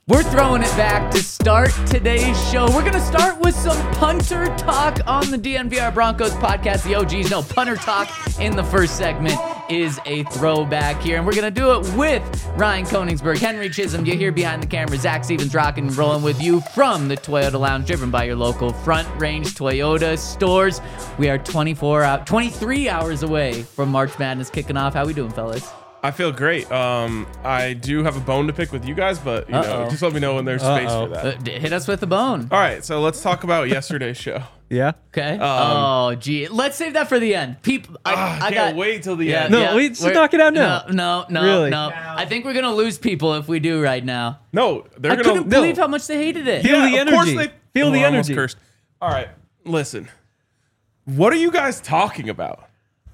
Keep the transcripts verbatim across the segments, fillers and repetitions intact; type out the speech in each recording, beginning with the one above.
We're throwing it back to start today's show. We're going to start with some punter talk on the D N V R Broncos podcast. The O Gs know punter talk in the first segment is a throwback here. And we're going to do it with Ryan Koenigsberg, Henry Chisholm. You're here behind the camera. Zach Stevens rocking and rolling with you from the Toyota Lounge, driven by your local Front Range Toyota stores. We are twenty-four out, twenty-three hours away from March Madness kicking off. How we doing, fellas? I feel great. Um, I do have a bone to pick with you guys, but you Uh-oh. know, just let me know when there's space Uh-oh. for that. Uh, hit us with the bone. All right, so let's talk about yesterday's show. Yeah. Okay. Um, oh, gee. Let's save that for the end. People, I, Ah, I I can't got, wait till the yeah, end. No, yeah, we just we're- knock it out now. No, no, no, Really? no. I think we're gonna lose people if we do right now. No, they're I gonna couldn't no. believe how much they hated it. Feel the of course energy. they- Feel the Oh, I almost energy. Cursed. All right, listen. What are you guys talking about?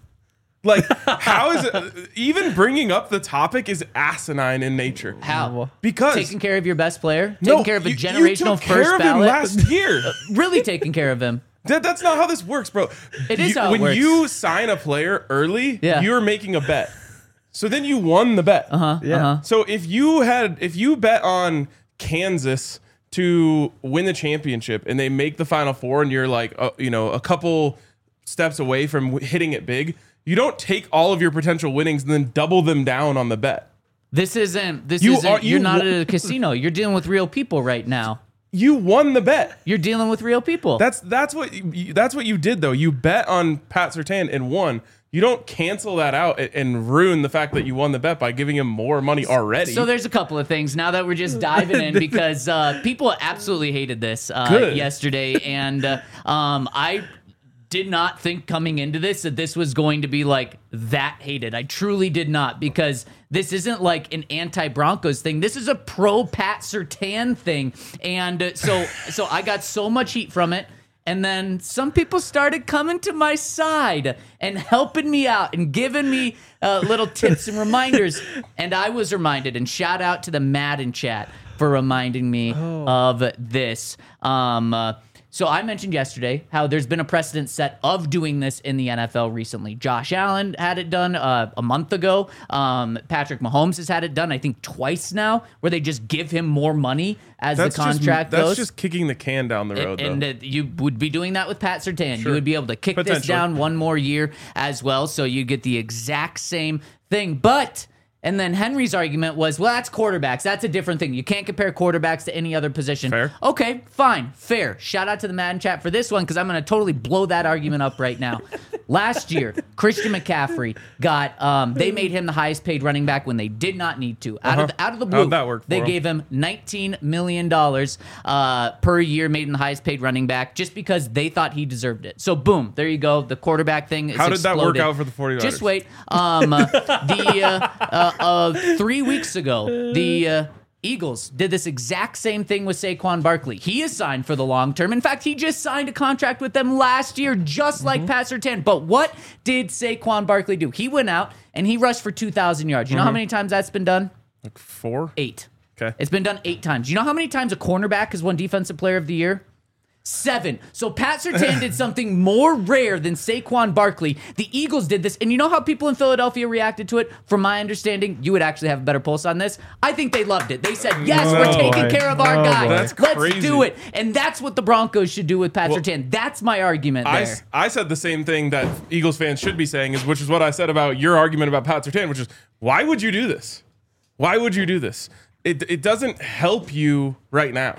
Like, how is it? Even bringing up the topic is asinine in nature. How? Because Taking care of your best player, taking no, care of a you- generational you took first care of ballot. him last year. Really taking care of him. That, that's not how this works, bro. It is You- how it when works. you sign a player early, Yeah. you're making a bet. So then you won the bet. Uh huh. Yeah. Uh huh. So if you had, if you bet on Kansas to win the championship and they make the Final Four, and you're like, uh, you know, a couple steps away from w- hitting it big, you don't take all of your potential winnings and then double them down on the bet. This isn't. This You isn't. are- you're you not wa- at a casino. You're dealing with real people right now. You won the bet. You're dealing with real people. That's that's what you, that's what you did though. You bet on Pat Surtain and won. You don't cancel that out and, and ruin the fact that you won the bet by giving him more money already. So there's a couple of things now that we're just diving in because uh, people absolutely hated this uh, Good. yesterday, and uh, um, I did not think coming into this that this was going to be like that hated. I truly did not, because this isn't like an anti-Broncos thing. This is a pro-Pat Surtain thing, and uh, so so I got so much heat from it. And then some people started coming to my side and helping me out and giving me uh, little tips and reminders. And I was reminded, and shout out to the Madden chat for reminding me Oh. of this. Um, uh, so I mentioned yesterday how there's been a precedent set of doing this in the N F L recently. Josh Allen had it done uh, a month ago. Um, Patrick Mahomes has had it done, I think, twice now, where they just give him more money as that's the contract just, that's goes. just kicking the can down the road. And, though. and uh, you would be doing that with Pat Surtain. You Sure. would be able to kick this Potentially. down one more year as well, so you get the exact same thing. But, and then Henry's argument was, well, that's quarterbacks. That's a different thing. You can't compare quarterbacks to any other position. Fair. Okay, fine, fair. Shout out to the Madden chat for this one, because I'm going to totally blow that argument up right now. Last year, Christian McCaffrey got, um, they made him the highest paid running back when they did not need to. Out, of, the, out of the blue, How'd that work for they him? gave him nineteen million dollars uh, per year, made him the highest paid running back, just because they thought he deserved it. So boom, there you go. The quarterback thing is How did that work exploded. out for the 49ers? Just wait. Um, uh, the uh, uh, uh, three weeks ago, the uh, Eagles did this exact same thing with Saquon Barkley. He is signed for the long term. In fact, he just signed a contract with them last year, just like Pat Surtain. But what did Saquon Barkley do? He went out and he rushed for two thousand yards. You know how many times that's been done? Like four. Eight. Okay. It's been done eight times. You know how many times a cornerback has won Defensive Player of the Year? Seven. So Pat Surtain did something more rare than Saquon Barkley. The Eagles did this, and you know how people in Philadelphia reacted to it? From my understanding, you would actually have a better pulse on this. I think they loved it. They said, yes, No, we're taking boy. care of our No, guy. boy. That's Let's crazy. do it. And that's what the Broncos should do with Pat Well, Surtain. That's my argument I, there. s- I said the same thing that Eagles fans should be saying, is which is what I said about your argument about Pat Surtain, which is, why would you do this? Why would you do this? It, it doesn't help you right now.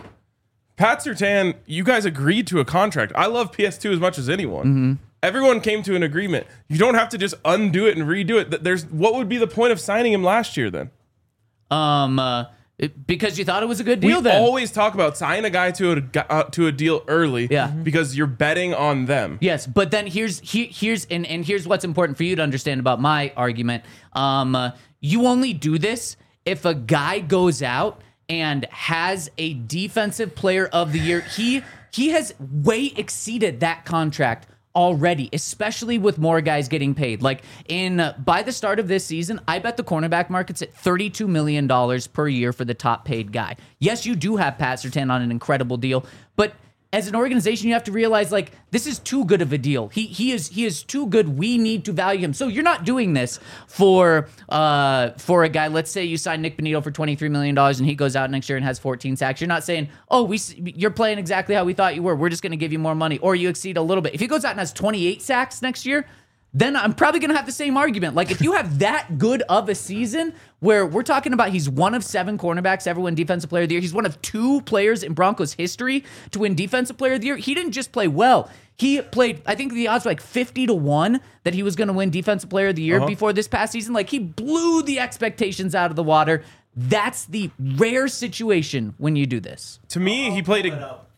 Pat Surtain, you guys agreed to a contract. I love P S two as much as anyone. Mm-hmm. Everyone came to an agreement. You don't have to just undo it and redo it. Th- There's what would be the point of signing him last year then? Um, uh, it- because you thought it was a good We deal then. always talk about sign a guy to a gu- uh, to a deal early, Yeah. because you're betting on them. Yes, but then here's he, here's and, and here's what's important for you to understand about my argument. Um, uh, you only do this if a guy goes out and has a defensive player of the year. He he has way exceeded that contract already, especially with more guys getting paid. Like in uh, by the start of this season, I bet the cornerback market's at thirty-two million dollars per year for the top paid guy. Yes, you do have Pat Surtain on an incredible deal, but as an organization, you have to realize like this is too good of a deal. He he is he is too good. We need to value him. So you're not doing this for uh for a guy. Let's say you sign Nick Bonito for twenty-three million dollars and he goes out next year and has fourteen sacks. You're not saying, oh, we you're playing exactly how we thought you were. We're just going to give you more money, or you exceed a little bit. If he goes out and has twenty-eight sacks next year, then I'm probably going to have the same argument. Like, if you have that good of a season where we're talking about he's one of seven cornerbacks ever win Defensive Player of the Year. He's one of two players in Broncos history to win Defensive Player of the Year. He didn't just play well. He played, I think the odds were like fifty to one that he was going to win Defensive Player of the Year uh-huh. before this past season. Like, he blew the expectations out of the water. That's the rare situation when you do this. To me, he played...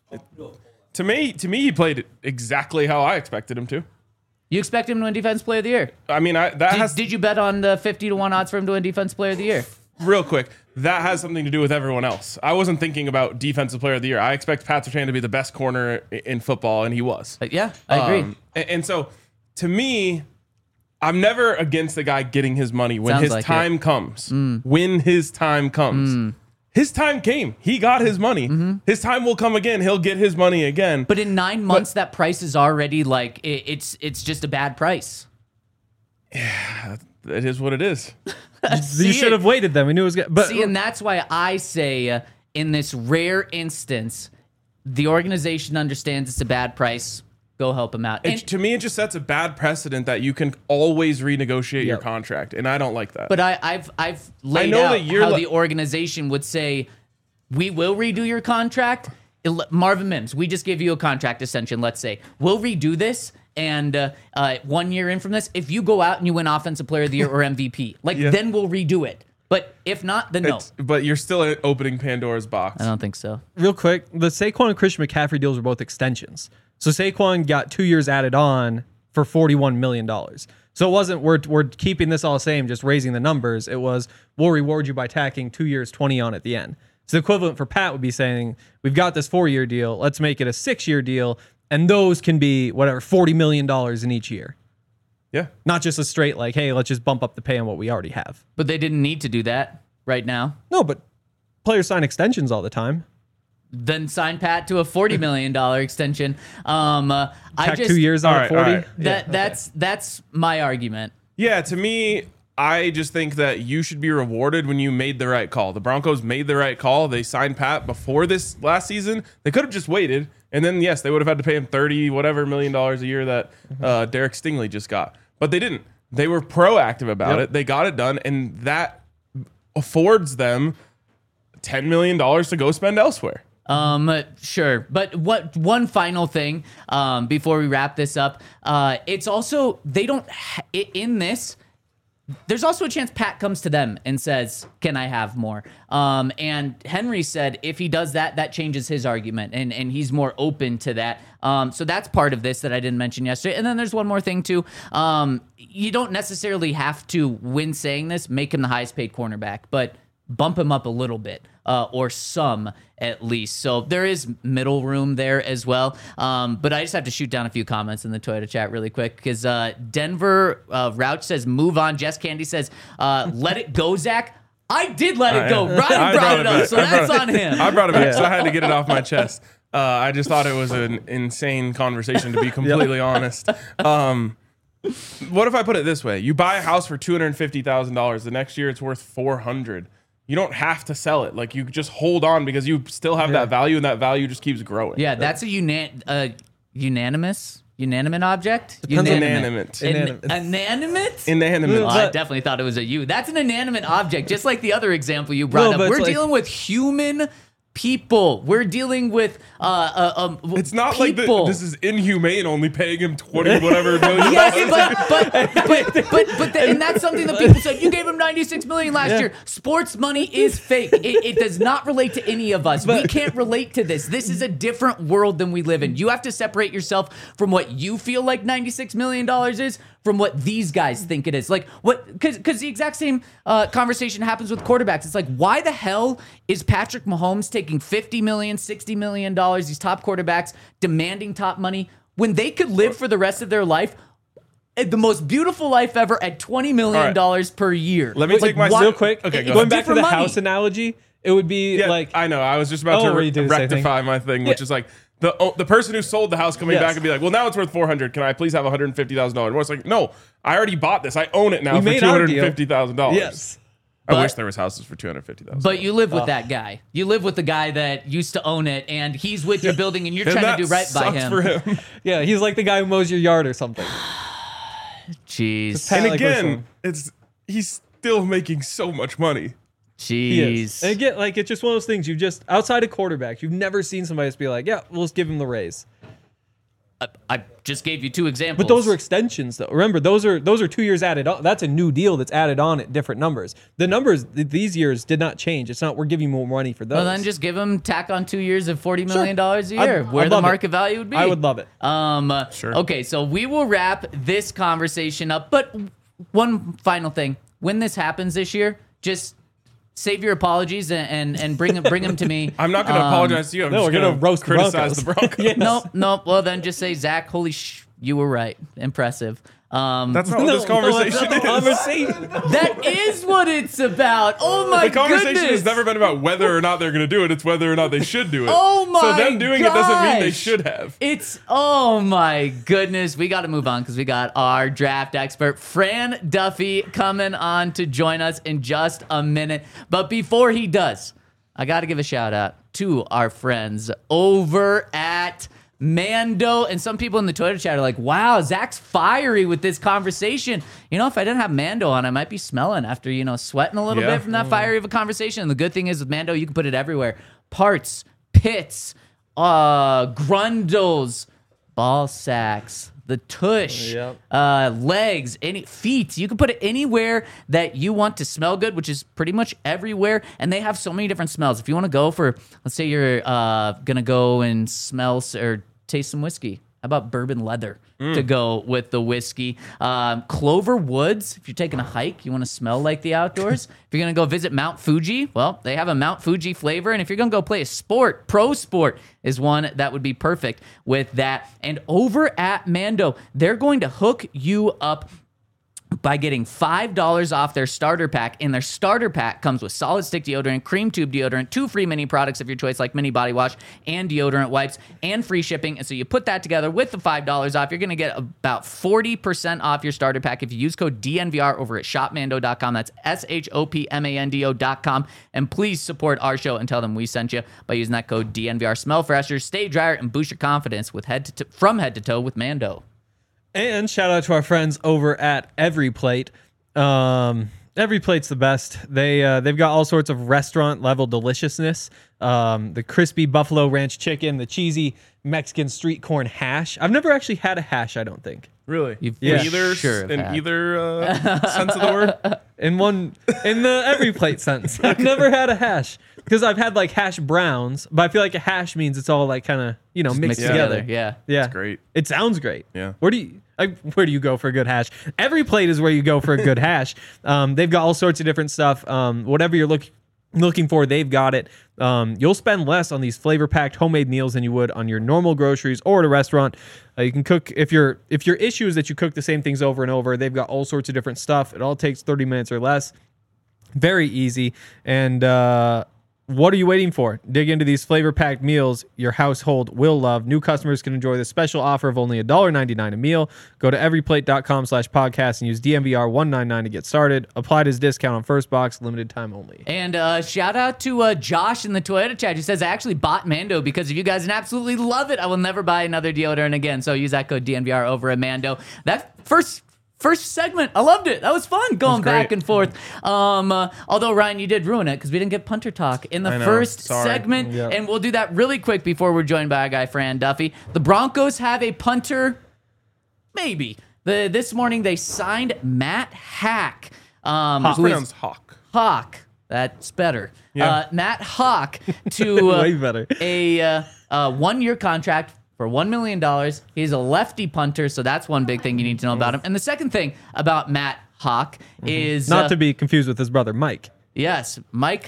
To me, to me, he played exactly how I expected him to. You expect him to win Defensive Player of the Year? I mean, I, that did, has... Did you bet on the fifty to one odds for him to win Defensive Player of the Year? Real quick, that has something to do with everyone else. I wasn't thinking about Defensive Player of the Year. I expect Pat Surtain to be the best corner in football, and he was. But yeah, I agree. Um, and, and so, to me, I'm never against the guy getting his money when Sounds his like time it. comes. Mm. When his time comes. Mm. His time came. He got his money. Mm-hmm. His time will come again. He'll get his money again. But in nine months, but, that price is already like it, it's it's just a bad price. Yeah, it is what it is. You should have waited then. We knew it was good. But see, and that's why I say uh, in this rare instance, the organization understands it's a bad price. Go help him out. It, And, to me, it just sets a bad precedent that you can always renegotiate Yep. your contract, and I don't like that. but I, I've I've laid know out that you're how li- the organization would say, we will redo your contract. Il- Marvin Mims, we just give you a contract extension. Let's say we'll redo this, and uh, uh, one year in from this, if you go out and you win Offensive Player of the Year or M V P, like Yeah. then we'll redo it. But if not, then no. It's- but you're still opening Pandora's box. I don't think so. real quick, the Saquon and Christian McCaffrey deals were both extensions. So Saquon got two years added on for forty-one million dollars. So it wasn't we're we're keeping this all the same, just raising the numbers. It was we'll reward you by tacking two years, twenty on at the end. So the equivalent for Pat would be saying, we've got this four-year deal, let's make it a six-year deal, and those can be whatever, forty million dollars in each year. Yeah. Not just a straight like, hey, let's just bump up the pay on what we already have. But they didn't need to do that right now. No, but players sign extensions all the time. Then sign Pat to a forty million dollars extension. Um, uh, I Tack just two years on All at right, forty. all right. that that's that's my argument. Yeah, to me, I just think that you should be rewarded when you made the right call. The Broncos made the right call. They signed Pat before this last season. They could have just waited, and then yes, they would have had to pay him thirty whatever million dollars a year that uh, Derek Stingley just got. But they didn't. They were proactive about Yep. it. They got it done, and that affords them ten million dollars to go spend elsewhere. Um, sure. But what one final thing um, before we wrap this up? Uh, it's also they don't ha- i- in this. There's also a chance Pat comes to them and says, "Can I have more?" Um, and Henry said if he does that, that changes his argument, and and he's more open to that. Um, so that's part of this that I didn't mention yesterday. And then there's one more thing too. Um, you don't necessarily have to, when saying this, make him the highest paid cornerback, but bump him up a little bit, uh, or some at least. So there is middle room there as well. Um, but I just have to shoot down a few comments in the Toyota chat really quick because uh, Denver uh, Rouch says move on. Jess Candy says uh, let it go, Zach. I did let it go. I- Ryan I brought it up, back. so I brought that's it- on him. I brought it back, so I had to get it off my chest. Uh, I just thought it was an insane conversation, to be completely honest. Um, what if I put it this way? You buy a house for two hundred fifty thousand dollars. The next year, it's worth four hundred thousand dollars. You don't have to sell it. Like, you just hold on because you still have that value, and that value just keeps growing. Yeah, that's a unan- uh, unanimous, unanimate object. Depends on Unanimate. inanimate. An- Inanimate? Inanimate. Oh, I But- definitely thought it was a you. That's an inanimate object, just like the other example you brought No, up. but We're it's like- dealing with human people. We're dealing with uh, uh um. w- It's not like the, people. this is inhumane, only paying him twenty whatever million. Yes, but but but but but the, and that's something that people said. You gave him ninety-six million last Yeah. year. Sports money is fake. It, it does not relate to any of us. we can't relate to this. This is a different world than we live in. You have to separate yourself from what you feel like ninety-six million dollars is from what these guys think it is. Like what? Because because the exact same uh, conversation happens with quarterbacks. It's like, why the hell is Patrick Mahomes taking fifty million, sixty million dollars? These top quarterbacks demanding top money when they could live for the rest of their life the most beautiful life ever at twenty million dollars All right. per year. Let me Like, take my why- Real quick, Okay, go going ahead. back to the Different money. house analogy, it would be Yeah, like I know. I was just about Oh, to were re- you doing the same rectify thing? my thing, which is like The, oh, the person who sold the house coming Yes. back and be like, well, now it's worth four hundred. Can I please have one hundred fifty thousand dollars more? It's like, no, I already bought this. I own it now We for made two our hundred deal. fifty thousand dollars. Yes. I But- wish there was houses for two hundred fifty thousand dollars. But you live with that guy. You live with the guy that used to own it, and he's with your building, and you're And trying that to do right by sucks him. for him. Yeah, he's like the guy who mows your yard or something. Jeez. Pat- And like we're again, saying. it's he's still making so much money. He is. Jeez. And again, like it's just one of those things. You just outside of quarterbacks, you've never seen somebody just be like, "Yeah, we'll just give him the raise." I, I just gave you two examples. But those were extensions, though. Remember, those are those are two years added on. That's a new deal that's added on at different numbers. The numbers th- these years did not change. It's not we're giving you more money for those. Well, then just give him tack on two years of forty million dollars a I'd- year, I'd where the love it. market value would be. I would love it. Um, uh, Sure. Okay, so we will wrap this conversation up. But one final thing: when this happens this year, just save your apologies and and, and bring bring them to me. I'm not going to Um, apologize to you. I'm no, just we're gonna going to roast the criticize the Broncos. Broncos. Yes. No, no. Well, then just say, Zach, holy sh, you were right. Impressive. Um, That's not what No, this no, conversation that's not the is. conversation. that is what it's about. Oh my The conversation goodness. has never been about whether or not they're going to do it. It's whether or not they should do it. Oh my So them doing it doesn't mean they gosh. should have. It's oh my goodness. We got to move on because we got our draft expert Fran Duffy coming on to join us in just a minute. But before he does, I got to give a shout out to our friends over at Mando. And some people in the Twitter chat are like, wow, Zach's fiery with this conversation. You know, if I didn't have Mando on, I might be smelling after, you know, sweating a little Yeah. bit from that fiery of a conversation. And the good thing is with Mando, you can put it everywhere. Parts, pits, uh, grundles, ball sacks, the tush, Yep. uh, legs, any feet. You can put it anywhere that you want to smell good, which is pretty much everywhere. And they have so many different smells. If you want to go for, let's say you're uh, gonna go and smell s- or taste some whiskey. How about bourbon leather to go with the whiskey? Um, Clover Woods, if you're taking a hike, you want to smell like the outdoors. If you're going to go visit Mount Fuji, well, they have a Mount Fuji flavor. And if you're going to go play a sport, pro sport is one that would be perfect with that. And over at Mando, they're going to hook you up by getting five dollars off their starter pack. And their starter pack comes with solid stick deodorant, cream tube deodorant, two free mini products of your choice like mini body wash and deodorant wipes, and free shipping. And so you put that together with the five dollars off, you're going to get about forty percent off your starter pack if you use code D N V R over at shop mando dot com. That's S H O P M A N D O dot com. And please support our show and tell them we sent you by using that code D N V R. Smell fresher, stay drier, and boost your confidence with head to t- from head to toe with Mando. And shout out to our friends over at Every Plate. Um, Every Plate's the best. They uh, they've got all sorts of restaurant level deliciousness. Um, the crispy buffalo ranch chicken, the cheesy Mexican street corn hash. I've never actually had a hash. I don't think. Really? You've in for either, sure have in had. either uh, sense of the word? In one, in the Every Plate sense, I've never had a hash because I've had like hash browns, but I feel like a hash means it's all like kind of you know mixed Mixed together. together, yeah. Yeah, great. It sounds great. Yeah. Where do you like, where do you go for a good hash? Every Plate is where you go for a good hash. Um, they've got all sorts of different stuff. Um, whatever you're looking looking for, they've got it. Um, you'll spend less on these flavor packed homemade meals than you would on your normal groceries or at a restaurant. Uh, you can cook if your if your issue is that you cook the same things over and over. They've got all sorts of different stuff. It all takes thirty minutes or less. Very easy. And uh, what are you waiting for? Dig into these flavor-packed meals your household will love. New customers can enjoy the special offer of only one dollar and ninety-nine cents a meal. Go to everyplate dot com slash podcast and use D M V R one ninety-nine to get started. Applied as discount on first box, limited time only. And uh, shout out to uh, Josh in the Toyota chat who says, I actually bought Mando because of you guys and absolutely love it. I will never buy another deodorant again. So use that code D N V R over at Mando. That first first segment, I loved it. That was fun going great. back and forth. Um, uh, although, Ryan, you did ruin it because we didn't get punter talk in the I know. first Sorry. segment. Yeah. And we'll do that really quick before we're joined by our guy, Fran Duffy. The Broncos have a punter. Maybe. The, this morning they signed Matt Hack. Um, It's who is- pronounced Hawk. Hawk. That's better. Yeah. Uh, Matt Hawk to uh, Way better. a uh, uh, one-year contract for one million dollars. He's a lefty punter, so that's one big thing you need to know about him. And the second thing about Matt Hawk is... Not uh, to be confused with his brother, Mike Yes, Mike...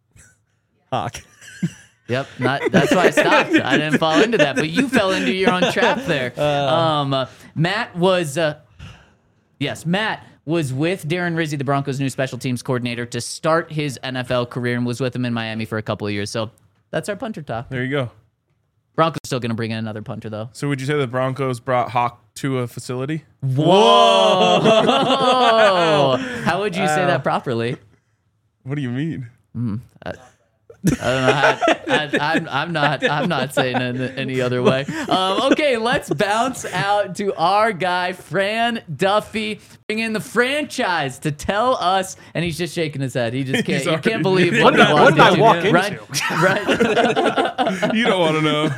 Hawk. Yep, not, that's why I stopped. I didn't fall into that, but you fell into your own trap there. Um, uh, Matt was... Uh, yes, Matt... was with Darren Rizzi, the Broncos' new special teams coordinator, to start his N F L career and was with him in Miami for a couple of years. So that's our punter talk. There you go. Broncos still going to bring in another punter, though. So would you say the Broncos brought Hawk to a facility? Whoa! How would you say that properly? What do you mean? Mm, I, I don't know. How, I, I'm, I'm not. I'm not saying it any other way. Um, okay, let's bounce out to our guy Fran Duffy. Bring in the franchise to tell us, and he's just shaking his head. He just can't. He can't believe what, what, did, what did I walk into. Right, right. You don't want to know.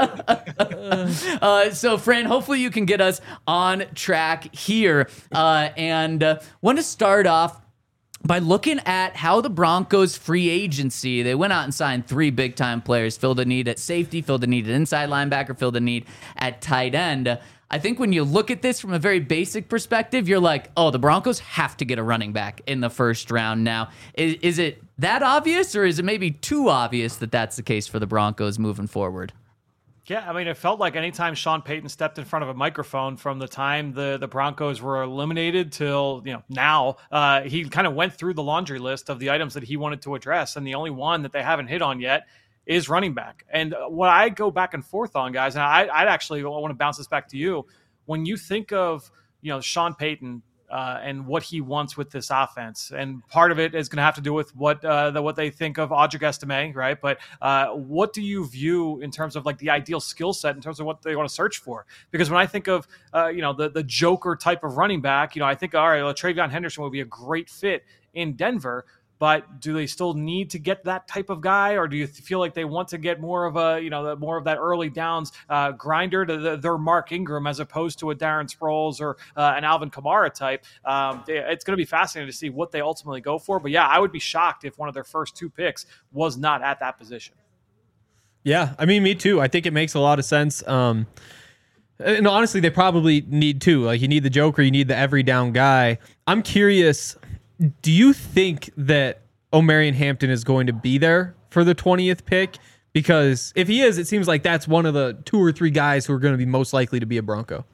Uh, so, Fran, hopefully you can get us on track here, uh, and uh, want to start off by looking at how the Broncos free agency, they went out and signed three big-time players, filled a need at safety, filled a need at inside linebacker, filled a need at tight end. I think when you look at this from a very basic perspective, you're like, oh, the Broncos have to get a running back in the first round now. Is, is it that obvious, or is it maybe too obvious that that's the case for the Broncos moving forward? Yeah, I mean, it felt like anytime Sean Payton stepped in front of a microphone from the time the, the Broncos were eliminated till, you know, now, uh, he kind of went through the laundry list of the items that he wanted to address. And the only one that they haven't hit on yet is running back. And what I go back and forth on, guys, and I, I'd actually want to bounce this back to you. When you think of, you know, Sean Payton, Uh, and what he wants with this offense. And part of it is going to have to do with what uh, the, what they think of Audric Estime, right? But uh, what do you view in terms of like the ideal skill set in terms of what they want to search for? Because when I think of, uh, you know, the, the Joker type of running back, you know, I think, all right, well, Travion Henderson would be a great fit in Denver. But do they still need to get that type of guy, or do you feel like they want to get more of a, you know, more of that early downs uh, grinder to the, their Mark Ingram as opposed to a Darren Sproles or uh, an Alvin Kamara type? Um, it's going to be fascinating to see what they ultimately go for. But yeah, I would be shocked if one of their first two picks was not at that position. Yeah, I mean, me too. I think it makes a lot of sense. Um, and honestly, they probably need two. Like, you need the Joker, you need the every down guy. I'm curious. Do you think that Omarion Hampton is going to be there for the twentieth pick? Because if he is, it seems like that's one of the two or three guys who are going to be most likely to be a Bronco.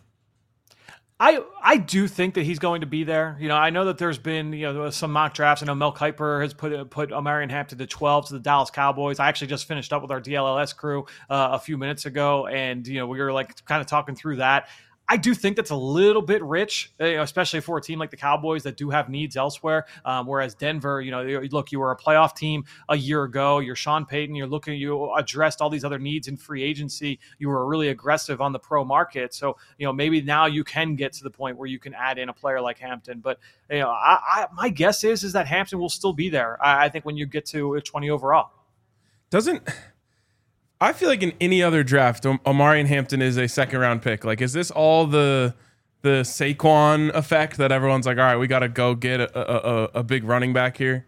I I do think that he's going to be there. You know, I know that there's been, you know, some mock drafts. I know Mel Kiper has put put Omarion Hampton to twelve to the Dallas Cowboys. I actually just finished up with our D L L S crew uh, a few minutes ago, and you know, we were like kind of talking through that. I do think that's a little bit rich, you know, especially for a team like the Cowboys that do have needs elsewhere. Um, whereas Denver, you know, look, you were a playoff team a year ago. You're Sean Payton. You're looking, you addressed all these other needs in free agency. You were really aggressive on the pro market. So, you know, maybe now you can get to the point where you can add in a player like Hampton. But, you know, I, I, my guess is, is that Hampton will still be there. I, I think when you get to twenty overall. Doesn't... I feel like in any other draft, Omarion Hampton is a second round pick. Like, is this all the the Saquon effect that everyone's like, all right, we got to go get a, a, a big running back here?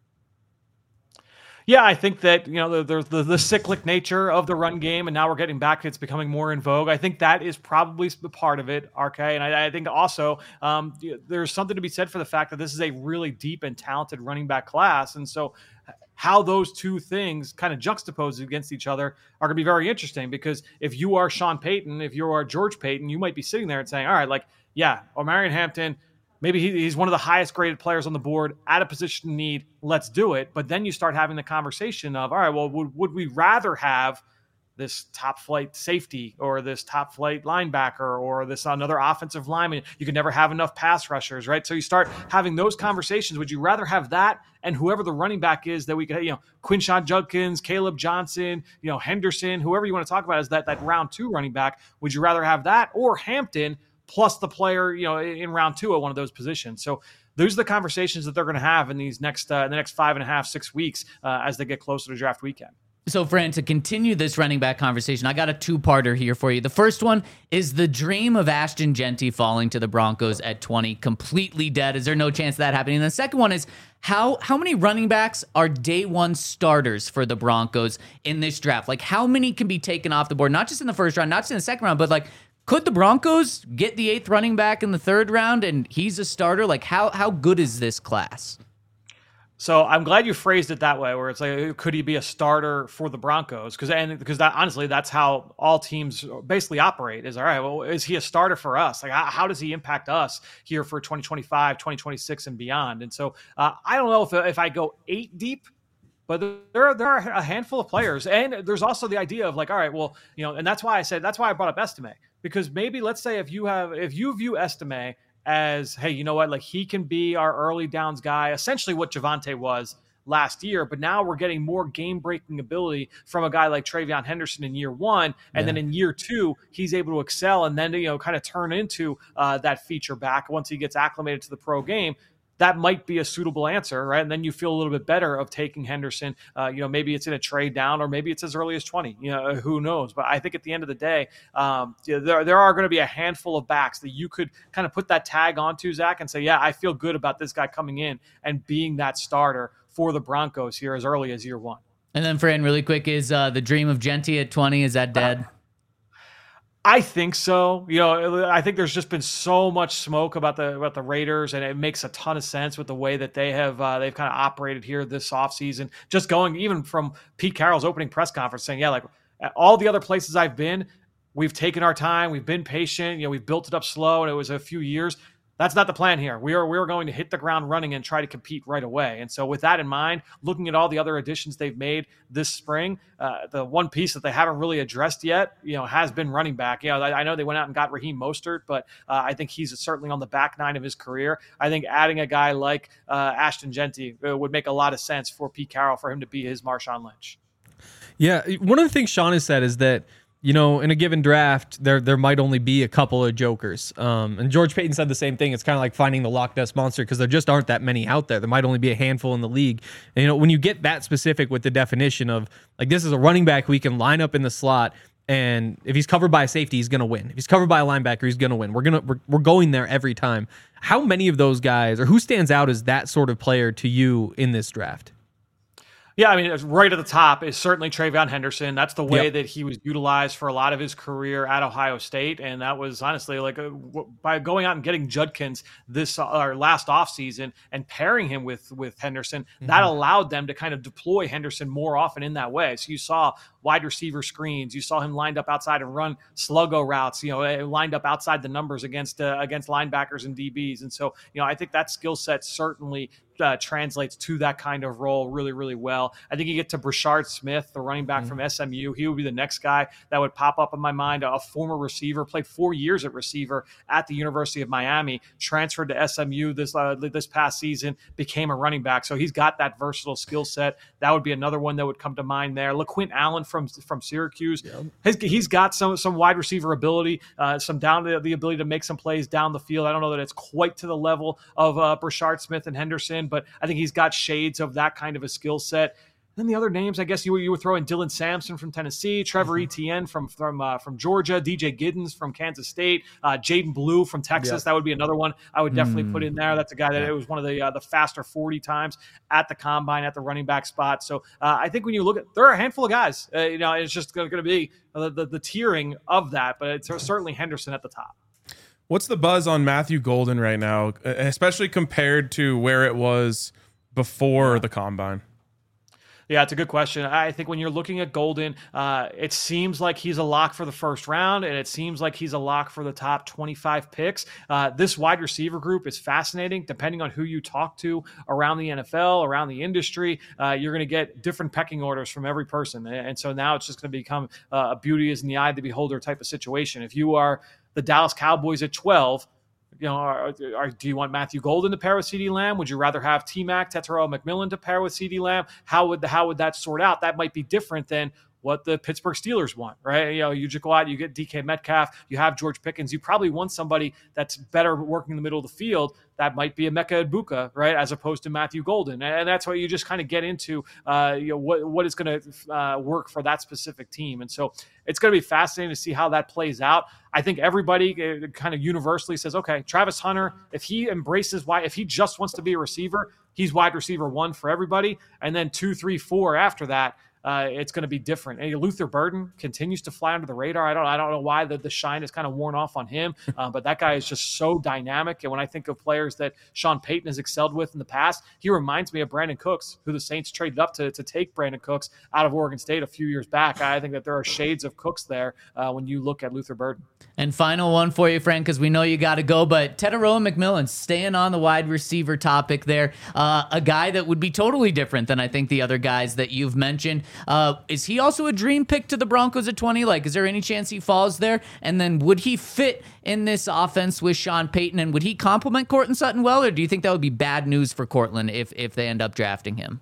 Yeah, I think that, you know, there's the, the, the cyclic nature of the run game, and now we're getting back. It's becoming more in vogue. I think that is probably the part of it, R K. And I, I think also um, there's something to be said for the fact that this is a really deep and talented running back class. And so how those two things kind of juxtaposed against each other are going to be very interesting, because if you are Sean Payton, if you are George Payton, you might be sitting there and saying, all right, like, yeah, Omarion Hampton, maybe he, he's one of the highest graded players on the board at a position of need. Let's do it. But then you start having the conversation of, all right, well, would, would we rather have this top flight safety or this top flight linebacker or this another offensive lineman? You can never have enough pass rushers, right? So you start having those conversations. Would you rather have that and whoever the running back is that we could, you know, Quinshon Judkins, Caleb Johnson, you know, Henderson, whoever you want to talk about is that, that round two running back. Would you rather have that or Hampton plus the player, you know, in round two at one of those positions? So those are the conversations that they're going to have in these next, uh, the next five and a half, six weeks uh, as they get closer to draft weekend. So, Fran, to continue this running back conversation, I got a two-parter here for you. The first one is the dream of Ashton Jeanty falling to the Broncos at twenty completely dead. Is there no chance of that happening? And the second one is how how many running backs are day one starters for the Broncos in this draft? Like, how many can be taken off the board, not just in the first round, not just in the second round, but like, could the Broncos get the eighth running back in the third round and he's a starter? Like, how how good is this class? So I'm glad you phrased it that way, where it's like, could he be a starter for the Broncos? Because and because that honestly, that's how all teams basically operate. Is all right. Well, is he a starter for us? Like, how, how does he impact us here for twenty twenty-five, twenty twenty-six, and beyond? And so uh, I don't know if if I go eight deep But there are, there are a handful of players. And there's also the idea of like, all right, well, you know, and that's why I said, that's why I brought up Estime, because maybe let's say if you have, if you view Estime as, hey, you know what, like he can be our early downs guy, essentially what Javonte was last year, but now we're getting more game-breaking ability from a guy like Travion Henderson in year one, and yeah. then in year two, he's able to excel and then, you know, kind of turn into uh, that feature back once he gets acclimated to the pro game. That might be a suitable answer, right? And then you feel a little bit better of taking Henderson. Uh, you know, maybe it's in a trade down, or maybe it's as early as twenty. You know, who knows? But I think at the end of the day, um, there there are going to be a handful of backs that you could kind of put that tag onto, Zach, and say, yeah, I feel good about this guy coming in and being that starter for the Broncos here as early as year one. And then, Fran, really quick, is uh, the dream of Genty at twenty, is that dead? I think so. You know, I think there's just been so much smoke about the about the Raiders, and it makes a ton of sense with the way that they have uh, they've kind of operated here this offseason. Just going even from Pete Carroll's opening press conference saying, yeah, like at all the other places I've been, we've taken our time, we've been patient, you know, we've built it up slow, and it was a few years. That's not the plan here. We are we are going to hit the ground running and try to compete right away. And so with that in mind, looking at all the other additions they've made this spring, uh, the one piece that they haven't really addressed yet, you know, has been running back. You know, I, I know they went out and got Raheem Mostert, but uh, I think he's certainly on the back nine of his career. I think adding a guy like uh, Ashton Genty uh, would make a lot of sense for Pete Carroll, for him to be his Marshawn Lynch. Yeah, one of the things Sean has said is that, you know, in a given draft, there there might only be a couple of jokers. Um, and George Payton said the same thing. It's kind of like finding the Loch Ness Monster because there just aren't that many out there. There might only be a handful in the league. And, you know, when you get that specific with the definition of, like, this is a running back we can line up in the slot, and if he's covered by a safety, he's going to win. If he's covered by a linebacker, he's going to win. We're gonna we're, we're going there every time. How many of those guys, or who stands out as that sort of player to you in this draft? Yeah, I mean, right at the top is certainly Travion Henderson. That's the way Yep. that he was utilized for a lot of his career at Ohio State. And that was honestly like a, by going out and getting Judkins this or last offseason and pairing him with, with Henderson, mm-hmm. that allowed them to kind of deploy Henderson more often in that way. So you saw wide receiver screens. You saw him lined up outside and run sluggo routes, you know, lined up outside the numbers against uh, against linebackers and D Bs. And so, you know, I think that skill set certainly Uh, translates to that kind of role really, really well. I think you get to Brashard Smith, the running back mm-hmm. from S M U. He would be the next guy that would pop up in my mind. A former receiver, played four years at receiver at the University of Miami, transferred to S M U this uh, this past season, became a running back. So he's got that versatile skill set. That would be another one that would come to mind there. LaQuint Allen from from Syracuse, yep. His, he's got some some wide receiver ability, uh, some down the, the ability to make some plays down the field. I don't know that it's quite to the level of uh, Brashard Smith and Henderson, but I think he's got shades of that kind of a skill set. Then the other names, I guess you, you were throwing Dylan Sampson from Tennessee, Trevor mm-hmm. Etienne from from uh, from Georgia, D J Giddens from Kansas State, uh, Jaden Blue from Texas. Yep. That would be another one I would definitely mm. put in there. That's a guy that yeah. it was one of the uh, the faster forty times at the combine at the running back spot. So uh, I think when you look at, there are a handful of guys. Uh, you know, it's just going to be the, the the tiering of that, but it's certainly Henderson at the top. What's the buzz on Matthew Golden right now, especially compared to where it was before the combine? Yeah, it's a good question. I think when you're looking at Golden, uh, it seems like he's a lock for the first round, and it seems like he's a lock for the top twenty-five picks. Uh, this wide receiver group is fascinating. Depending on who you talk to around the N F L, around the industry, uh, you're going to get different pecking orders from every person. And so now it's just going to become uh, a beauty is in the eye of the beholder type of situation. If you are the Dallas Cowboys at twelve, you know, are, are, do you want Matthew Golden to pair with CeeDee Lamb? Would you rather have T-Mac, Tetairoa McMillan to pair with CeeDee Lamb? How would the, how would that sort out? That might be different than what the Pittsburgh Steelers want, right? You know, you just go out, you get D K Metcalf, you have George Pickens. You probably want somebody that's better working in the middle of the field. That might be a Emeka Egbuka, right, as opposed to Matthew Golden. And that's what you just kind of get into, uh, you know, what what is going to uh, work for that specific team. And so it's going to be fascinating to see how that plays out. I think everybody kind of universally says, okay, Travis Hunter, if he embraces why, if he just wants to be a receiver, he's wide receiver one for everybody. And then two, three, four after that. uh, it's going to be different. And Luther Burden continues to fly under the radar. I don't, I don't know why the, the shine is kind of worn off on him, uh, but that guy is just so dynamic. And when I think of players that Sean Payton has excelled with in the past, he reminds me of Brandon Cooks, who the Saints traded up to, to take Brandon Cooks out of Oregon State a few years back. I think that there are shades of Cooks there uh, when you look at Luther Burden. And final one for you, friend, because we know you got to go, but Teteroa McMillan, staying on the wide receiver topic there, uh, a guy that would be totally different than I think the other guys that you've mentioned. Uh, is he also a dream pick to the Broncos at twenty? Like, is there any chance he falls there? And then would he fit in this offense with Sean Payton, and would he complement Courtland Sutton well, or do you think that would be bad news for Courtland if, if they end up drafting him?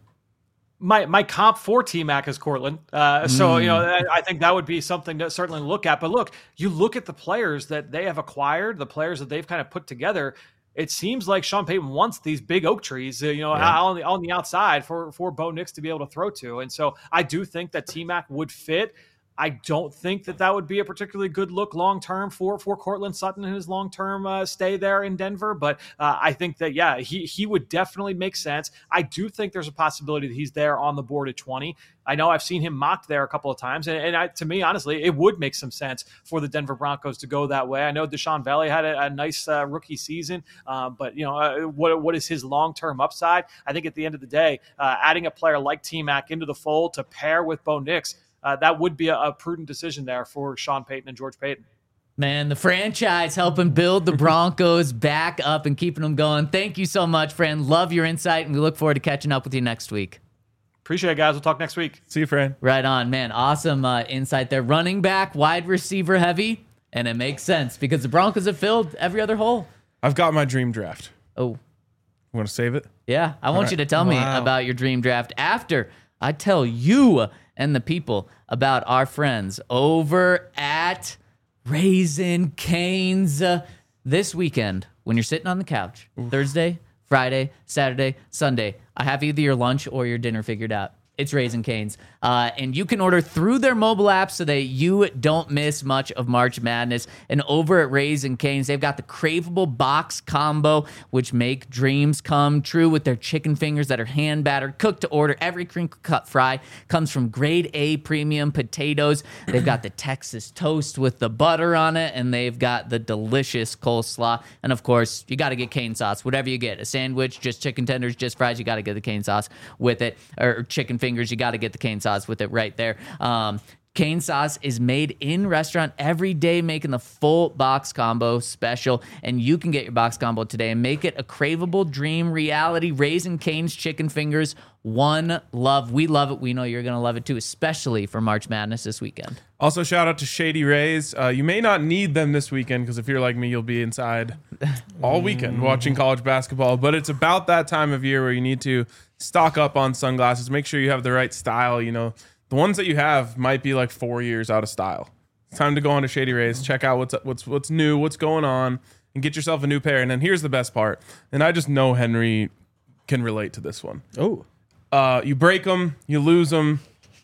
My my comp for T-Mac is Courtland. Uh, so, you know, I, I think that would be something to certainly look at. But look, you look at the players that they have acquired, the players that they've kind of put together. It seems like Sean Payton wants these big oak trees, uh, you know, yeah. on the on the outside for, for Bo Nix to be able to throw to. And so I do think that T-Mac would fit. I don't think that that would be a particularly good look long-term for, for Courtland Sutton in his long-term uh, stay there in Denver. But uh, I think that, yeah, he, he would definitely make sense. I do think there's a possibility that he's there on the board at twenty. I know I've seen him mocked there a couple of times. And, and I, to me, honestly, it would make some sense for the Denver Broncos to go that way. I know Deshaun Valley had a, a nice uh, rookie season, uh, but, you know, uh, what what is his long-term upside? I think at the end of the day, uh, adding a player like T-Mac into the fold to pair with Bo Nix, Uh, that would be a, a prudent decision there for Sean Payton and George Payton. Man, the franchise helping build the Broncos back up and keeping them going. Thank you so much, friend. Love your insight, and we look forward to catching up with you next week. Appreciate it, guys. We'll talk next week. See you, friend. Right on, man. Awesome uh, insight there. Running back, wide receiver heavy, and it makes sense because the Broncos have filled every other hole. I've got my dream draft. Oh. You want to save it? Yeah, I want right. you to tell Wow. me about your dream draft after I tell you and the people about our friends over at Raising Cane's uh, this weekend when you're sitting on the couch. Oof. Thursday, Friday, Saturday, Sunday. I have either your lunch or your dinner figured out. It's Raising Cane's. Uh, and you can order through their mobile app so that you don't miss much of March Madness. And over at Raising Cane's, they've got the craveable box combo, which make dreams come true with their chicken fingers that are hand battered, cooked to order. Every crinkle cut fry comes from grade A premium potatoes. They've got the Texas toast with the butter on it, and they've got the delicious coleslaw. And of course, you got to get cane sauce. Whatever you get, a sandwich, just chicken tenders, just fries, you got to get the cane sauce with it, or chicken fingers, you got to get the cane sauce with it right there. Um, Cane sauce is made in restaurant every day, making the full box combo special. And you can get your box combo today and make it a craveable dream reality. Raising Cane's chicken fingers, one love. We love it. We know you're going to love it too, especially for March Madness this weekend. Also, shout out to Shady Rays. Uh, you may not need them this weekend because if you're like me, you'll be inside all weekend watching college basketball. But it's about that time of year where you need to stock up on sunglasses. Make sure you have the right style. You know, the ones that you have might be like four years out of style. It's time to go on to Shady Rays, check out what's what's what's new, what's going on, and get yourself a new pair. And then here's the best part. And I just know Henry can relate to this one. Oh, uh, you break them, you lose them.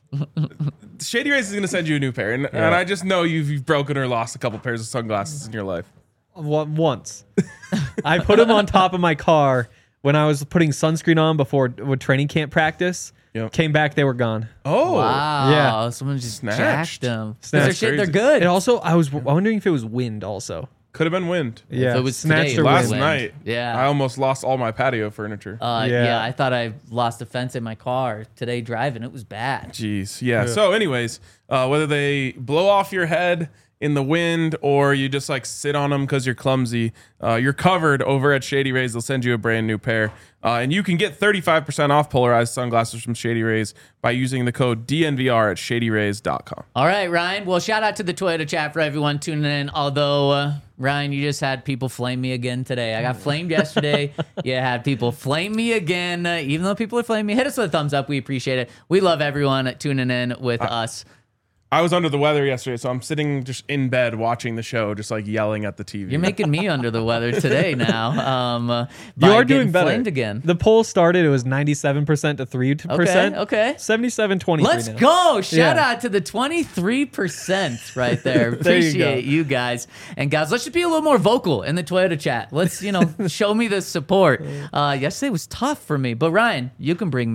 Shady Rays is going to send you a new pair, and, yeah. and I just know you've, you've broken or lost a couple pairs of sunglasses in your life. Once. I put them on top of my car when I was putting sunscreen on before with training camp practice. Yep. Came back, they were gone. Oh, wow! Yeah, someone just Snatched. jacked them. Snatched. They're shit. They're good. And also, I was wondering if it was wind. Also, could have been wind. Yeah, if it was snatched today, or last wind. night. Yeah, I almost lost all my patio furniture. Uh, Yeah. yeah. I thought I lost a fence in my car today driving. It was bad. Jeez, yeah. Yeah. So, anyways, uh, whether they blow off your head in the wind or you just like sit on them because you're clumsy, uh, you're covered over at Shady Rays. They'll send you a brand new pair. Uh, and you can get thirty-five percent off polarized sunglasses from Shady Rays by using the code D N V R at shady rays dot com. All right, Ryan. Well, shout out to the Toyota chat for everyone tuning in. Although, uh, Ryan, you just had people flame me again today. I got flamed yesterday. You had people flame me again. Uh, even though people are flaming me, hit us with a thumbs up. We appreciate it. We love everyone tuning in with uh, us. I was under the weather yesterday, so I'm sitting just in bed watching the show, just like yelling at the T V. You're making me under the weather today now. Um, uh, You by are getting doing better. flamed again. The poll started, it was ninety-seven percent to three percent. Okay, okay. seventy-seven twenty-three Let's now. go. Shout Yeah. out to the twenty-three percent right there. There you Appreciate go. you, guys. And guys, let's just be a little more vocal in the Toyota chat. Let's, you know, show me the support. Uh, yesterday was tough for me, but Ryan, you can bring me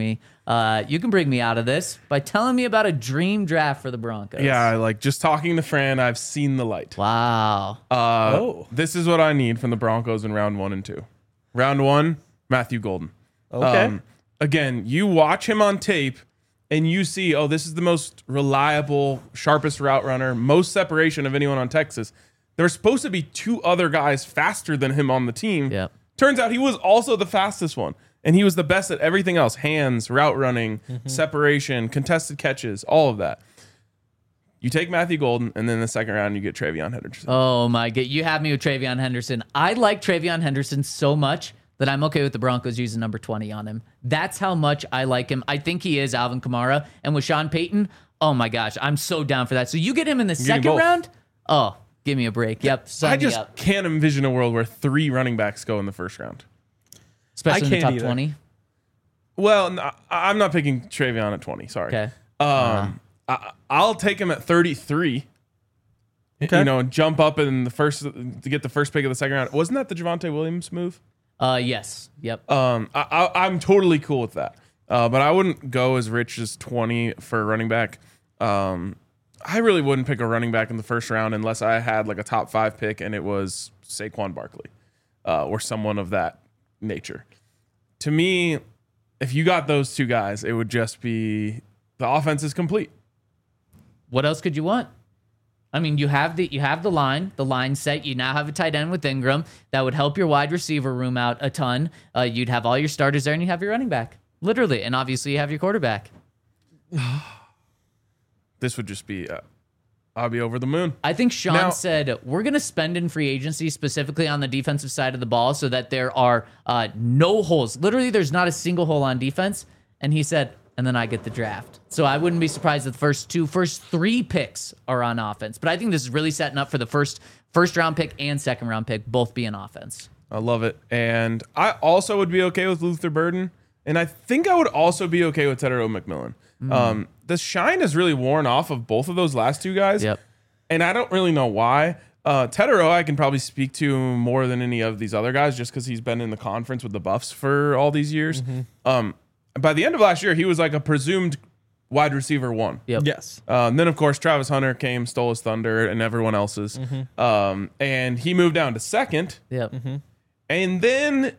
Uh, you can bring me out of this by telling me about a dream draft for the Broncos. Yeah, like just talking to Fran, I've seen the light. Wow. Uh, Oh. This is what I need from the Broncos in round one and two. Round one, Matthew Golden. Okay. Again, you watch him on tape and you see, oh, this is the most reliable, sharpest route runner, most separation of anyone on Texas. There's supposed to be two other guys faster than him on the team. Yep. Turns out he was also the fastest one. And he was the best at everything else. Hands, route running, Mm-hmm. separation, contested catches, all of that. You take Matthew Golden, and then in the second round, you get Travion Henderson. Oh my god, you have me with Travion Henderson. I like Travion Henderson so much that I'm okay with the Broncos using number twenty on him. That's how much I like him. I think he is Alvin Kamara. And with Sean Payton, oh my gosh, I'm so down for that. So you get him in the getting second both. round? Oh, give me a break. Yep, sign I me just up. can't envision a world where three running backs go in the first round. Especially in the can't top either. twenty. Well, n- I- I'm not picking Travion at twenty. Sorry. Okay. Um, I, I'll take him at thirty-three. Okay. You know, and jump up in the first to get the first pick of the second round. Wasn't that the Javonte Williams move? Uh yes. Yep. Um, I, I, I'm totally cool with that. Uh, but I wouldn't go as rich as twenty for a running back. Um, I really wouldn't pick a running back in the first round unless I had like a top five pick and it was Saquon Barkley uh, or someone of that nature. To me, if you got those two guys, it would just be the offense is complete. What else could you want? I mean, you have the you have the line, the line set. You now have a tight end with Ingram that would help your wide receiver room out a ton. Uh, you'd have all your starters there, and you have your running back, literally, and obviously you have your quarterback. This would just be, uh, I'll be over the moon. I think Sean Now- said we're going to spend in free agency specifically on the defensive side of the ball so that there are uh, no holes. Literally, there's not a single hole on defense. And he said, and then I get the draft. So I wouldn't be surprised if the first two, first three picks are on offense. But I think this is really setting up for the first first round pick and second round pick both being offense. I love it. And I also would be okay with Luther Burden. And I think I would also be okay with Tedero McMillan. Um, the shine has really worn off of both of those last two guys. Yep. And I don't really know why. Uh, Tedero, I can probably speak to more than any of these other guys just because he's been in the conference with the Buffs for all these years. Um, by the end of last year, he was like a presumed wide receiver one. Yep. Yes. Uh, and then, of course, Travis Hunter came, stole his thunder, and everyone else's. Um, and he moved down to second. Yep. And then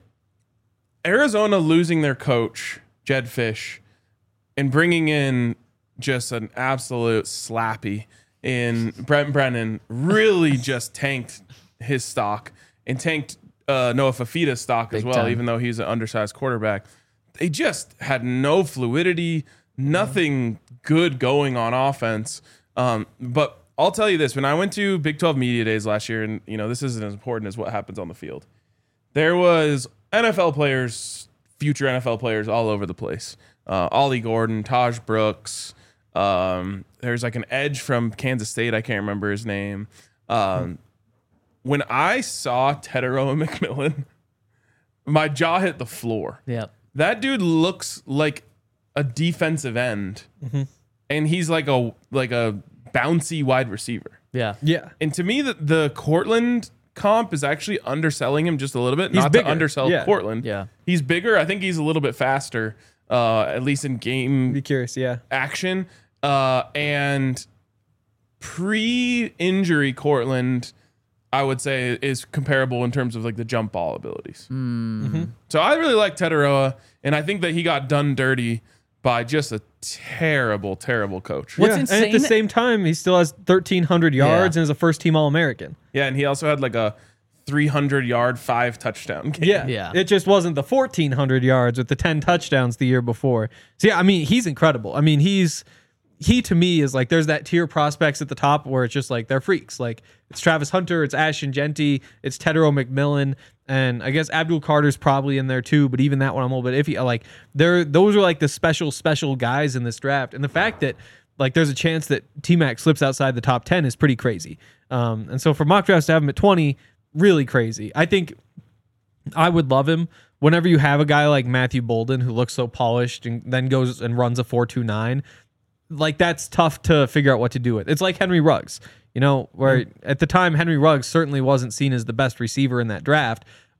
Arizona losing their coach, Jed Fish, and bringing in just an absolute slappy in Brent Brennan really just tanked his stock and tanked uh, Noah Fafita's stock as Big well, time. even though he's an undersized quarterback. They just had no fluidity, nothing good going on offense. Um, but I'll tell you this, when I went to Big twelve Media Days last year, and you know this isn't as important as what happens on the field, there was N F L players, future N F L players all over the place. Uh, Ollie Gordon, Taj Brooks. Um, there's like an edge from Kansas State. I can't remember his name. Um, when I saw Tedero McMillan, my jaw hit the floor. Yep. That dude looks like a defensive end, and he's like a like a bouncy wide receiver. Yeah. Yeah. And to me, the, the Cortland comp is actually underselling him just a little bit. He's Not bigger. to undersell Yeah. Cortland. Yeah. He's bigger. I think he's a little bit faster, uh, at least in game Be curious. Yeah. action. Uh, and pre-injury Cortland, I would say, is comparable in terms of like the jump ball abilities. So I really like Tedoroa, and I think that he got done dirty by just a terrible, terrible coach. What's yeah. And insane- at the same time, he still has thirteen hundred yards Yeah. and is a first team All American. Yeah, and he also had like a three hundred yard, five touchdown game. Yeah. Yeah. It just wasn't the fourteen hundred yards with the ten touchdowns the year before. So, yeah, I mean, he's incredible. I mean, he's, he to me is like, there's that tier prospects at the top where it's just like, they're freaks. Like, it's Travis Hunter, it's Ashton Genty, it's Tedero McMillan, and I guess Abdul Carter's probably in there too, but even that one I'm a little bit iffy. Like, they're, those are like the special, special guys in this draft. And the fact that, like, there's a chance that T-Mac slips outside the top ten is pretty crazy. Um, and so for mock drafts to have him at twenty, really crazy. I think I would love him whenever you have a guy like Matthew Bolden who looks so polished and then goes and runs a four two nine. Like, that's tough to figure out what to do with. It's like Henry Ruggs, you know, where at the time Henry Ruggs certainly wasn't seen as the best receiver in that draft,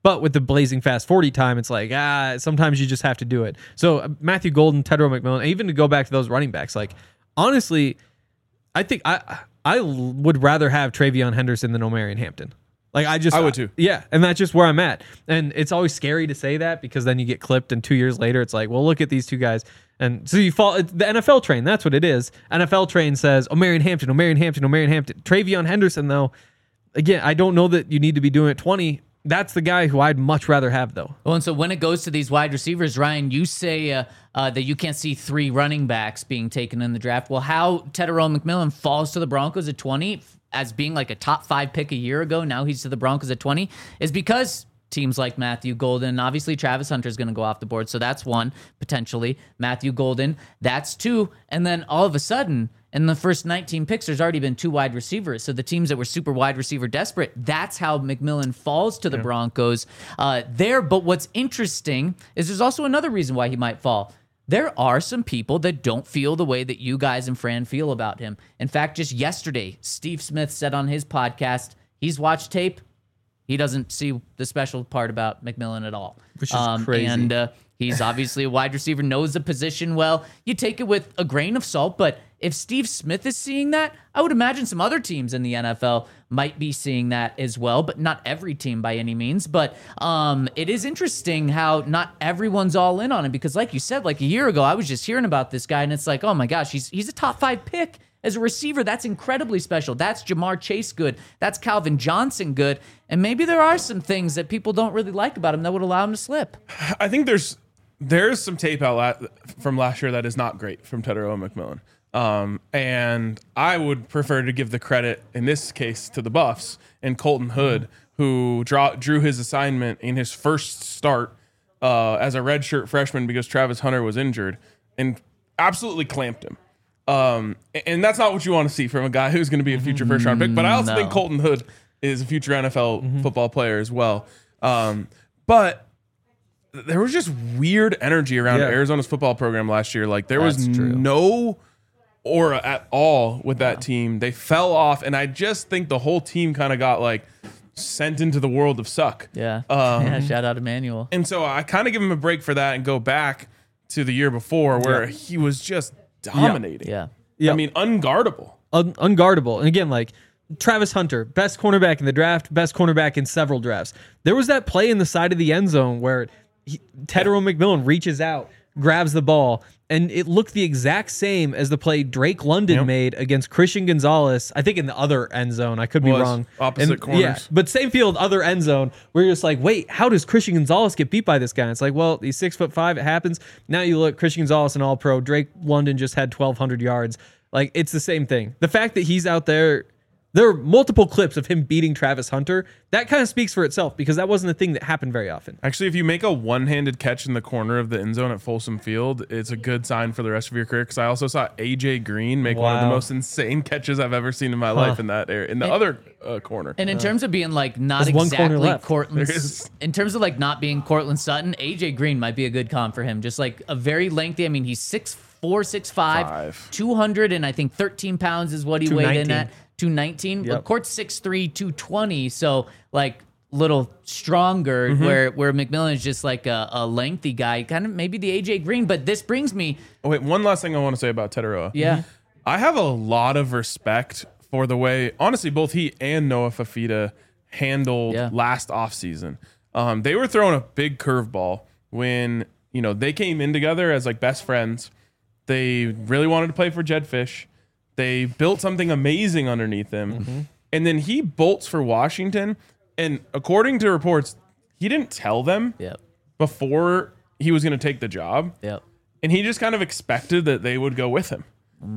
But with the blazing fast forty time, it's like, ah, sometimes you just have to do it. So uh, Matthew Golden, Tedro McMillan, even to go back to those running backs, like, honestly, I think I I would rather have Travion Henderson than Omarion Hampton. Like, I just... I would too. Yeah, and that's just where I'm at. And it's always scary to say that because then you get clipped and two years later, it's like, well, look at these two guys. And so you fall... The N F L train, that's what it is. N F L train says, Omarion Hampton, Omarion Hampton, Omarion Hampton. Travion Henderson, though, again, I don't know that you need to be doing it twenty. That's the guy who I'd much rather have, though. Well, and so when it goes to these wide receivers, Ryan, you say uh, uh, that you can't see three running backs being taken in the draft. Well, how Tedero McMillan falls to the Broncos at twenty as being like a top five pick a year ago, now he's to the Broncos at twenty, is because teams like Matthew Golden, obviously Travis Hunter is going to go off the board, so that's one, potentially. Matthew Golden, that's two. And then all of a sudden, in the first nineteen picks, there's already been two wide receivers. So the teams that were super wide receiver desperate, that's how McMillan falls to the yeah. Broncos uh, there. But what's interesting is there's also another reason why he might fall. There are some people that don't feel the way that you guys and Fran feel about him. In fact, just yesterday, Steve Smith said on his podcast, he's watched tape. He doesn't see the special part about McMillan at all. Which is um, crazy. And uh, he's obviously a wide receiver, knows the position well. You take it with a grain of salt, but if Steve Smith is seeing that, I would imagine some other teams in the N F L might be seeing that as well, but not every team by any means. But um, it is interesting how not everyone's all in on him because like you said, like a year ago, I was just hearing about this guy and it's like, oh my gosh, he's he's a top five pick. As a receiver, that's incredibly special. That's Jamar Chase good. That's Calvin Johnson good. And maybe there are some things that people don't really like about him that would allow him to slip. I think there's there's some tape out la- from last year that is not great from Tedero McMillan. Um, and I would prefer to give the credit, in this case, to the Buffs and Colton Hood, who draw, drew his assignment in his first start uh, as a redshirt freshman because Travis Hunter was injured and absolutely clamped him. Um, and that's not what you want to see from a guy who's going to be a future first round pick. But I also No. think Colton Hood is a future N F L mm-hmm. football player as well. Um, but there was just weird energy around Yeah. Arizona's football program last year. Like there That's was true. no aura at all with that team. They fell off, and I just think the whole team kind of got like sent into the world of suck. Yeah. Um, yeah. Shout out Emmanuel. And so I kind of give him a break for that and go back to the year before where Yeah. he was just dominating. Yeah. Yeah. I mean, unguardable. Un- unguardable. And again, like Travis Hunter, best cornerback in the draft, best cornerback in several drafts. There was that play in the side of the end zone where he, Tedero McMillan reaches out, grabs the ball, and it looked the exact same as the play Drake London Yep. made against Christian Gonzalez. I think in the other end zone. I could be Was wrong. opposite And- corners. Yeah, but same field, other end zone. Where you're just like, wait, how does Christian Gonzalez get beat by this guy? It's like, well, he's six foot five. It happens. Now you look, Christian Gonzalez, an All Pro. Drake London just had twelve hundred yards. Like it's the same thing. The fact that he's out there. There are multiple clips of him beating Travis Hunter. That kind of speaks for itself because that wasn't a thing that happened very often. Actually, if you make a one-handed catch in the corner of the end zone at Folsom Field, it's a good sign for the rest of your career. Because I also saw A J Green make one of the Wow. most insane catches I've ever seen in my life in that area, in the And- other uh, corner. And in terms of being like not There's one corner exactly left. Cortland, There is. in terms of like not being Cortland Sutton, A J Green might be a good comp for him. Just like a very lengthy. I mean, he's six four, six five, Five. two hundred and I think thirteen pounds is what he weighed in two nineteen. at. two nineteen. Yep. But Court's six three, two twenty. So like little stronger. Mm-hmm. Where where McMillan is just like a, a lengthy guy, kind of maybe the A J Green. But this brings me, Oh, wait, one last thing I want to say about Tedero. yeah. I have a lot of respect for the way, honestly, both he and Noah Fafita handled Yeah. last offseason. Um, they were throwing a big curveball when, you know, they came in together as like best friends. They really wanted to play for Jed Fish. They built something amazing underneath him. Mm-hmm. And then he bolts for Washington. And according to reports, he didn't tell them Yep. before he was going to take the job. Yep. And he just kind of expected that they would go with him.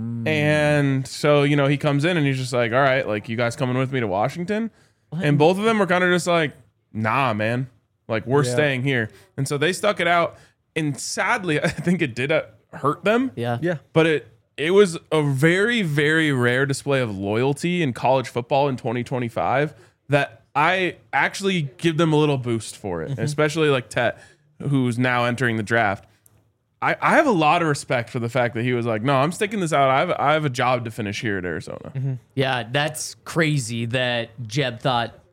And so, you know, he comes in and he's just like, all right, like, you guys coming with me to Washington? And both of them were kind of just like, nah, man. Like, we're Yeah. staying here. And so they stuck it out. And sadly, I think it did uh, hurt them. Yeah. Yeah. But it it was a very, very rare display of loyalty in college football in twenty twenty-five that I actually give them a little boost for it, especially like Tet, who's now entering the draft. I, I have a lot of respect for the fact that he was like, no, I'm sticking this out. I have, I have a job to finish here at Arizona. Yeah, that's crazy that Jeb thought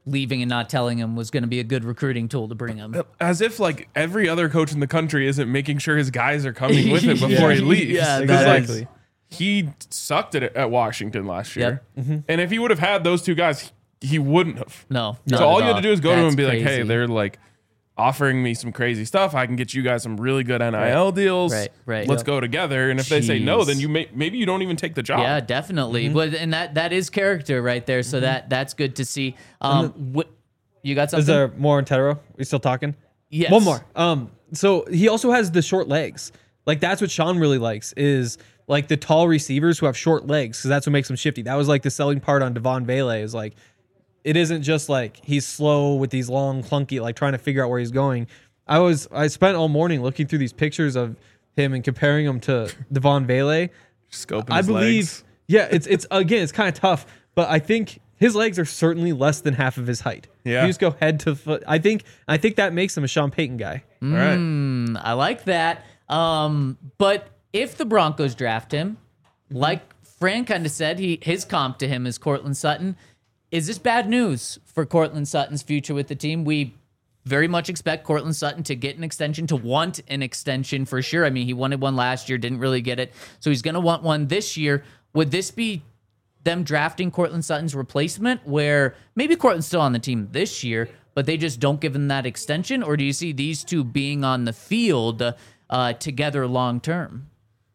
leaving and not telling him was going to be a good recruiting tool to bring him. As if like every other coach in the country isn't making sure his guys are coming with him before he leaves. Yeah, Because, like, exactly. he sucked at it at Washington last year. Yep. Mm-hmm. And if he would have had those two guys, he, he wouldn't have. No. So not all at you had to do is go to him That's and be like, crazy. hey, they're like offering me some crazy stuff. I can get you guys some really good N I L deals. Right, right. Let's Yep. go together. And if they say no, Jeez. then you may maybe you don't even take the job. Yeah, definitely. But and that that is character right there. So that that's good to see. Um, wh- you got something? Is there more on Tedero? We still talking? Yes. One more. Um, so he also has the short legs. Like that's what Sean really likes is like the tall receivers who have short legs because that's what makes them shifty. That was like the selling part on Devon Vele is like it isn't just like he's slow with these long clunky like trying to figure out where he's going. I was I spent all morning looking through these pictures of him and comparing him to Devon Vele. Scoping I his believe, legs. yeah, it's it's again, it's kind of tough, but I think his legs are certainly less than half of his height. Yeah. You just go head to foot. I think I think that makes him a Sean Payton guy. All right. Mm, I like that. Um, but if the Broncos draft him, like Fran kind of said, he his comp to him is Cortland Sutton. Is this bad news for Cortland Sutton's future with the team? We very much expect Cortland Sutton to get an extension, to want an extension for sure. I mean, he wanted one last year, didn't really get it. So he's going to want one this year. Would this be them drafting Cortland Sutton's replacement where maybe Cortland's still on the team this year, but they just don't give him that extension? Or do you see these two being on the field uh, together long term?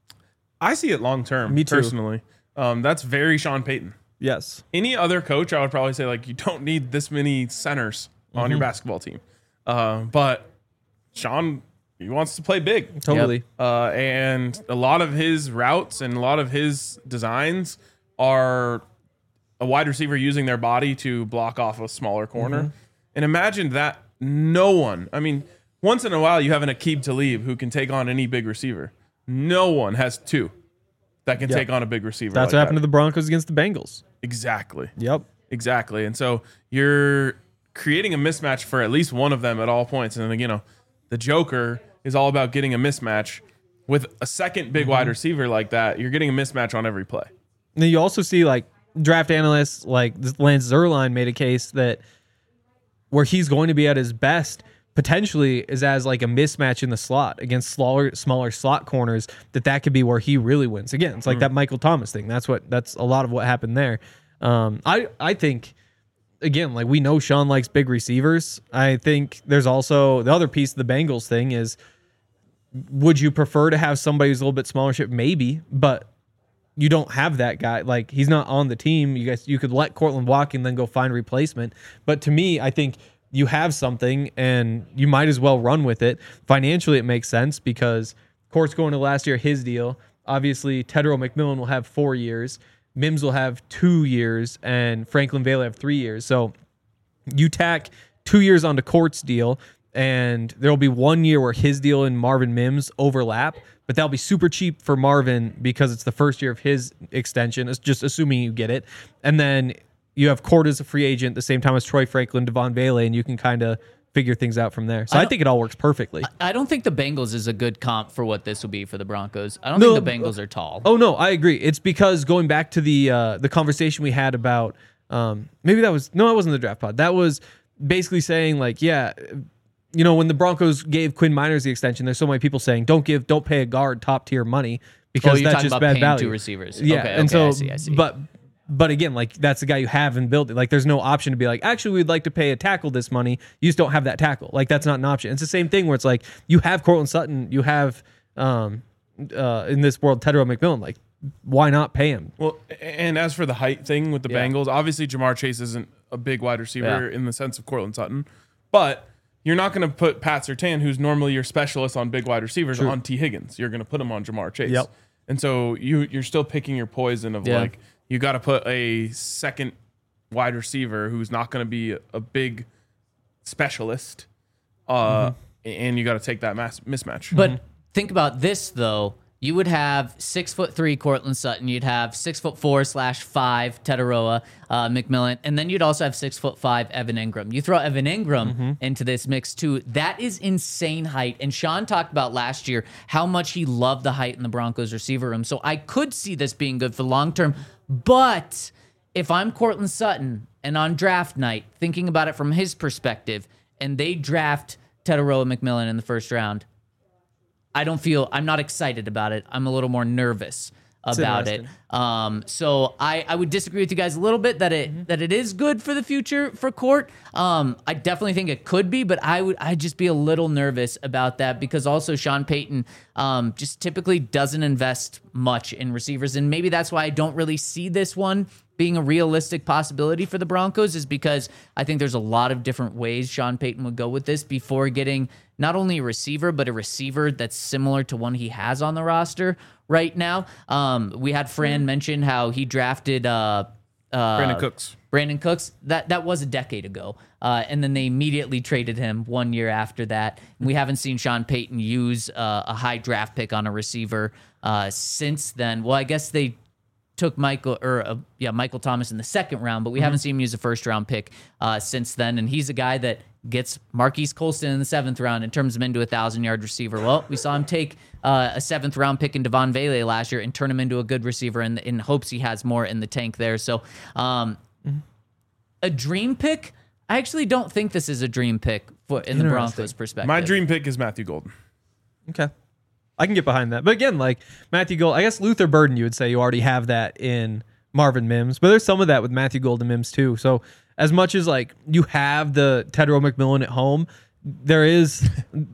I see it long term. Me too. Personally. Um, that's very Sean Payton. Yes. Any other coach, I would probably say like you don't need this many centers on Mm-hmm. your basketball team. Uh, but Sean, he wants to play big. Totally. Uh, and a lot of his routes and a lot of his designs are a wide receiver using their body to block off a smaller corner. Mm-hmm. And imagine that no one, I mean, once in a while you have an Aqib Talib who can take on any big receiver. No one has two that can Yep. take on a big receiver. That's like what happened that. to the Broncos against the Bengals. Exactly. Yep. Exactly. And so you're creating a mismatch for at least one of them at all points. And then, you know, the Joker is all about getting a mismatch with a second big wide receiver like that. You're getting a mismatch on every play. And then you also see like draft analysts like Lance Zierlein made a case that where he's going to be at his best potentially is as like a mismatch in the slot against smaller smaller slot corners, that that could be where he really wins. Again, it's like Mm. that Michael Thomas thing. That's what that's a lot of what happened there. Um, I I think again, like we know Sean likes big receivers. I think there's also the other piece of the Bengals thing is, would you prefer to have somebody who's a little bit smaller? Ship? Maybe, but you don't have that guy. Like he's not on the team. You guys, you could let Cortland walk and then go find a replacement. But to me, I think you have something and you might as well run with it. Financially, it makes sense because Court's going to last year his deal. Obviously, Tedero McMillan will have four years. Mims will have two years, and Franklin Vale have three years. So you tack two years onto Court's deal, and there will be one year where his deal and Marvin Mims overlap, but that'll be super cheap for Marvin because it's the first year of his extension. It's just assuming you get it. And then you have Court as a free agent at the same time as Troy Franklin, Devon Vele, and you can kind of figure things out from there. So I, I I think it all works perfectly. I don't think the Bengals is a good comp for what this will be for the Broncos. I don't No, think the Bengals are tall. Oh no, I agree. It's because going back to the uh, the conversation we had about um, maybe that was no, it wasn't the draft pod. That was basically saying like, yeah, you know, when the Broncos gave Quinn Miners the extension, there's so many people saying don't give, don't pay a guard top tier money because Oh, you're that's talking just about bad paying value. two receivers. Yeah, Okay, and okay, so I see, I see. but. But again, like that's the guy you have and built it. Like there's no option to be like, actually, we'd like to pay a tackle this money. You just don't have that tackle. Like that's not an option. It's the same thing where it's like you have Cortland Sutton, you have um, uh, in this world Tedero McMillan. Like, why not pay him? Well, and as for the height thing with the Yeah. Bengals, obviously Jamar Chase isn't a big wide receiver Yeah. in the sense of Cortland Sutton, but you're not going to put Pat Surtain, who's normally your specialist on big wide receivers, on T. Higgins. You're going to put him on Jamar Chase. Yep. And so you you're still picking your poison of Yeah. like you got to put a second wide receiver who's not going to be a, a big specialist, uh, and you got to take that mass mismatch. But think about this though. You would have six foot three Cortland Sutton. You'd have six foot four slash five Tetaroa uh, McMillan, and then you'd also have six foot five Evan Ingram. You throw Evan Ingram into this mix too. That is insane height. And Sean talked about last year how much he loved the height in the Broncos receiver room. So I could see this being good for long term, but if I'm Cortland Sutton and on draft night, thinking about it from his perspective, and they draft Tetaroa McMillan in the first round, I don't feel, I'm not excited about it. I'm a little more nervous about it. Um, so I, I would disagree with you guys a little bit that it mm-hmm. that it is good for the future for Court. Um, I definitely think it could be, but I would I'd just be a little nervous about that because also Sean Payton um, just typically doesn't invest much in receivers, and maybe that's why I don't really see this one being a realistic possibility for the Broncos, is because I think there's a lot of different ways Sean Payton would go with this before getting not only a receiver, but a receiver that's similar to one he has on the roster right now. Um, we had Fran mention how he drafted uh, uh, Brandon Cooks. Brandon Cooks. That that was a decade ago. Uh, and then they immediately traded him one year after that. We haven't seen Sean Payton use uh, a high draft pick on a receiver uh, since then. Well, I guess they took Michael or uh, yeah Michael Thomas in the second round, but we mm-hmm. haven't seen him use a first round pick uh, since then. And he's a guy that gets Marquise Colston in the seventh round and turns him into a thousand yard receiver. Well, we saw him take uh, a seventh round pick in Devon Vele last year and turn him into a good receiver in, in hopes he has more in the tank there. So um, mm-hmm. a dream pick. I actually don't think this is a dream pick for in the Broncos perspective. My dream pick is Matthew Golden. Okay. I can get behind that. But again, like Matthew Gold, I guess Luther Burden, you would say you already have that in Marvin Mims, but there's some of that with Matthew Gold and Mims too. So as much as like you have the Tetaroa McMillan at home, there is,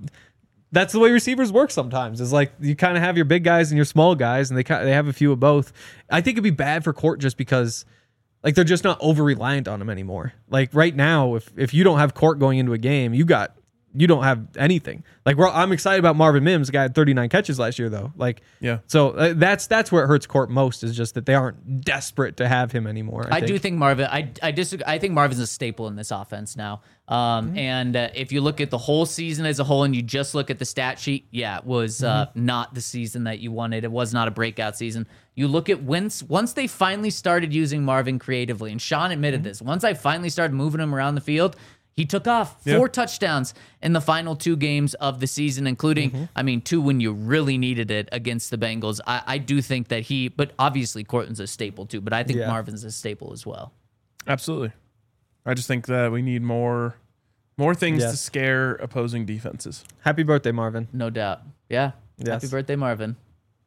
that's the way receivers work sometimes. Is like you kind of have your big guys and your small guys, and they they have a few of both. I think it'd be bad for Court just because like they're just not over reliant on him anymore. Like right now, if if you don't have Court going into a game, you got you don't have anything. Like we're, I'm excited about Marvin Mims. The guy had thirty-nine catches last year, though. Like, yeah. So uh, that's that's where it hurts Court most, is just that they aren't desperate to have him anymore. I, I think. do think Marvin. I I disagree. I think Marvin's a staple in this offense now. Um, mm-hmm. And uh, if you look at the whole season as a whole, and you just look at the stat sheet, yeah, it was uh, mm-hmm. not the season that you wanted. It was not a breakout season. You look at once once they finally started using Marvin creatively, and Sean admitted mm-hmm. this. Once I finally started moving him around the field, he took off four yeah. touchdowns in the final two games of the season, including, mm-hmm. I mean, two when you really needed it against the Bengals. I, I do think that he, but obviously Cortland's a staple too, but I think yeah. Marvin's a staple as well. Absolutely. I just think that we need more more things yes. to scare opposing defenses. Happy birthday, Marvin. No doubt. Yeah. Yes. Happy birthday, Marvin.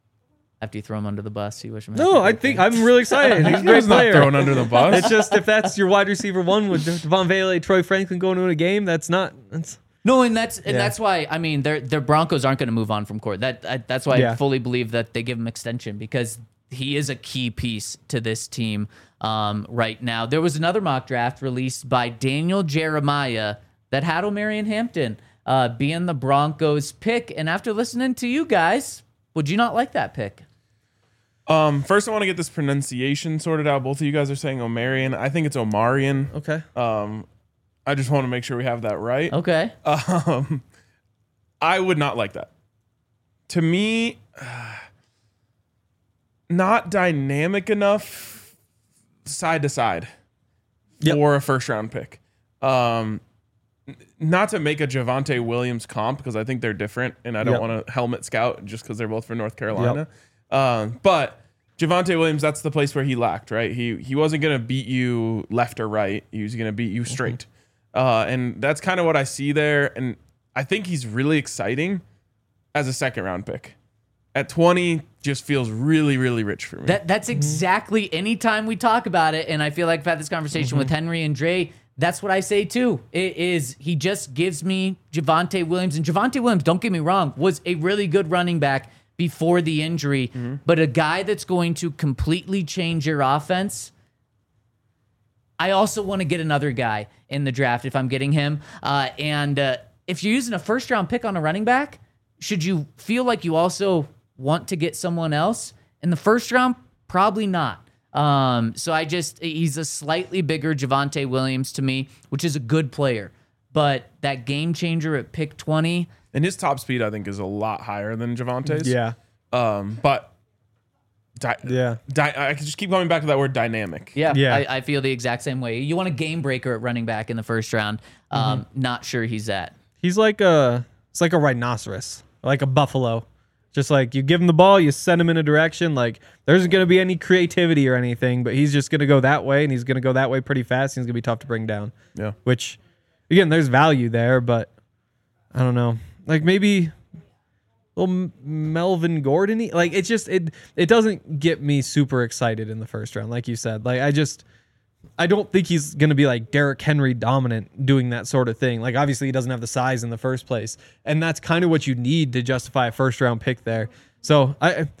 After you throw him under the bus, you wish him. No, I think I'm really excited. He's a great player. Not thrown under the bus. It's just if that's your wide receiver one with Devon Vele, Troy Franklin going to a game, that's not. That's no, and that's and yeah. that's why I mean, their their Broncos aren't going to move on from Court. That I, that's why yeah. I fully believe that they give him extension, because he is a key piece to this team um, right now. There was another mock draft released by Daniel Jeremiah that had Omarion Hampton uh, being the Broncos pick, and after listening to you guys, would you not like that pick? Um, first, I want to get this pronunciation sorted out. Both of you guys are saying Omarion. I think it's Omarion. Okay. Um, I just want to make sure we have that right. Okay. Um, I would not like that. To me, uh, not dynamic enough side to side yep. for a first round pick. Um, not to make a Javonte Williams comp, because I think they're different, and I don't yep. want to helmet scout just because they're both from North Carolina. Yep. Um, but Javonte Williams, that's the place where he lacked, right? He he wasn't going to beat you left or right. He was going to beat you straight. Mm-hmm. Uh, and that's kind of what I see there. And I think he's really exciting as a second round pick. At twenty, just feels really, really rich for me. That That's exactly mm-hmm. anytime we talk about it, and I feel like I've had this conversation mm-hmm. with Henry and Dre, that's what I say too. It is, he just gives me Javonte Williams. And Javonte Williams, don't get me wrong, was a really good running back before the injury, mm-hmm. but a guy that's going to completely change your offense. I also want to get another guy in the draft if I'm getting him. Uh, and uh, if you're using a first round pick on a running back, should you feel like you also want to get someone else in the first round? Probably not. Um, so I just, he's a slightly bigger Javonte Williams to me, which is a good player, but that game changer at pick twenty, and his top speed, I think, is a lot higher than Javonte's. Yeah. Um, but di- yeah, di- I can just keep coming back to that word dynamic. Yeah. Yeah. I, I feel the exact same way. You want a game breaker at running back in the first round. Um, mm-hmm. Not sure he's at. He's like a, it's like a rhinoceros, like a buffalo. Just like you give him the ball, you send him in a direction. Like there isn't going to be any creativity or anything, but he's just going to go that way, and he's going to go that way pretty fast. And he's going to be tough to bring down. Yeah. Which, again, there's value there, but I don't know. Like maybe little Melvin Gordon. Like it's just it. It doesn't get me super excited in the first round, like you said. Like I just. I don't think he's going to be like Derrick Henry dominant doing that sort of thing. Like obviously he doesn't have the size in the first place, and that's kind of what you need to justify a first round pick there. So I,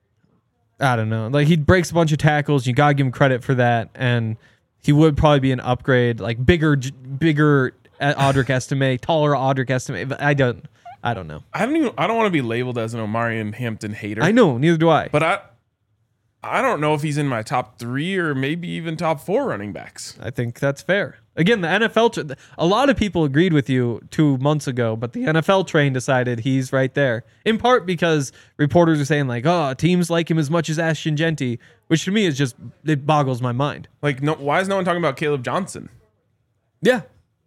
I don't know. Like he breaks a bunch of tackles. You gotta give him credit for that, and he would probably be an upgrade, like bigger, bigger Audric Estime, taller Audric Estime. But I don't, I don't know. I don't even. I don't want to be labeled as an Omarion Hampton hater. I know, neither do I. But I. I don't know if he's in my top three or maybe even top four running backs. I think that's fair. Again, the N F L, tra- a lot of people agreed with you two months ago, but the N F L train decided he's right there. In part because reporters are saying like, oh, teams like him as much as Ashton Genty, which to me is just, it boggles my mind. Like, no, why is no one talking about Caleb Johnson? Yeah.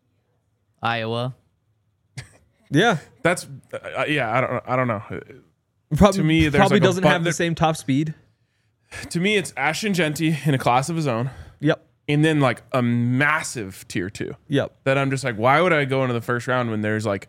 Iowa. Yeah. That's, uh, yeah, I don't, I don't know. Probably, To me, there's probably like a doesn't bu- have the there- same top speed. To me, it's Ashton Genty in a class of his own, Yep. and then like a massive tier two. Yep. That I'm just like, why would I go into the first round when there's like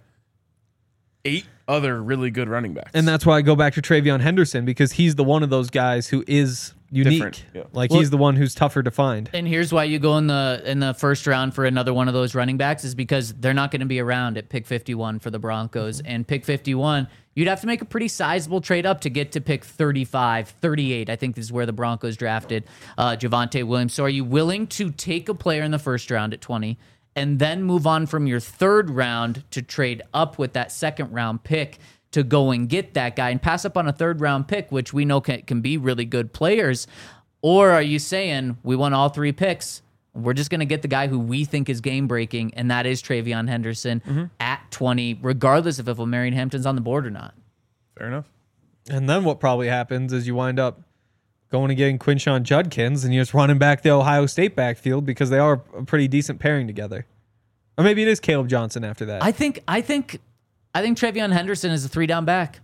eight other really good running backs? And that's why I go back to Travion Henderson, because he's the one of those guys who is unique. Different, yeah. Like Well- he's the one who's tougher to find. And here's why you go in the in the first round for another one of those running backs is because they're not going to be around at pick fifty-one for the Broncos. And pick fifty-one, you'd have to make a pretty sizable trade up to get to pick thirty-five, thirty-eight. I think this is where the Broncos drafted uh, Javonte Williams. So are you willing to take a player in the first round at twenty and then move on from your third round to trade up with that second round pick to go and get that guy and pass up on a third round pick, which we know can, can be really good players? Or are you saying we want all three picks? We're just going to get the guy who we think is game breaking, and that is Travion Henderson Mm-hmm. at twenty, regardless of if Omarion Hampton's on the board or not. Fair enough. And then what probably happens is you wind up going and getting Quinshawn Judkins, and you're just running back the Ohio State backfield because they are a pretty decent pairing together. Or maybe it is Caleb Johnson after that. I think, I think, I think Travion Henderson is a three down back.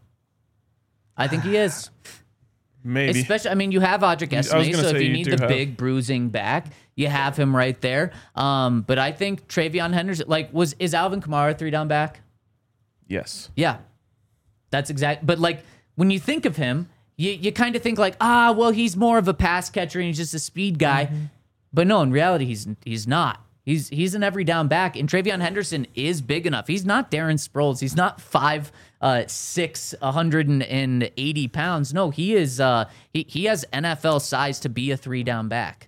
I think he is. Maybe. Especially, I mean, you have Audric I was Estime, gonna so if say you you need do the have- big bruising back, you have him right there. Um, but I think Travion Henderson, like, was is Alvin Kamara a three down back? Yes. Yeah, that's exact. But like when you think of him, you you kind of think like, ah, well, he's more of a pass catcher and he's just a speed guy. Mm-hmm. But no, in reality, he's he's not. He's he's an every down back, and Travion Henderson is big enough. He's not Darren Sproles. He's not five, uh, six, one hundred eighty pounds. No, he is. Uh, he he has N F L size to be a three down back.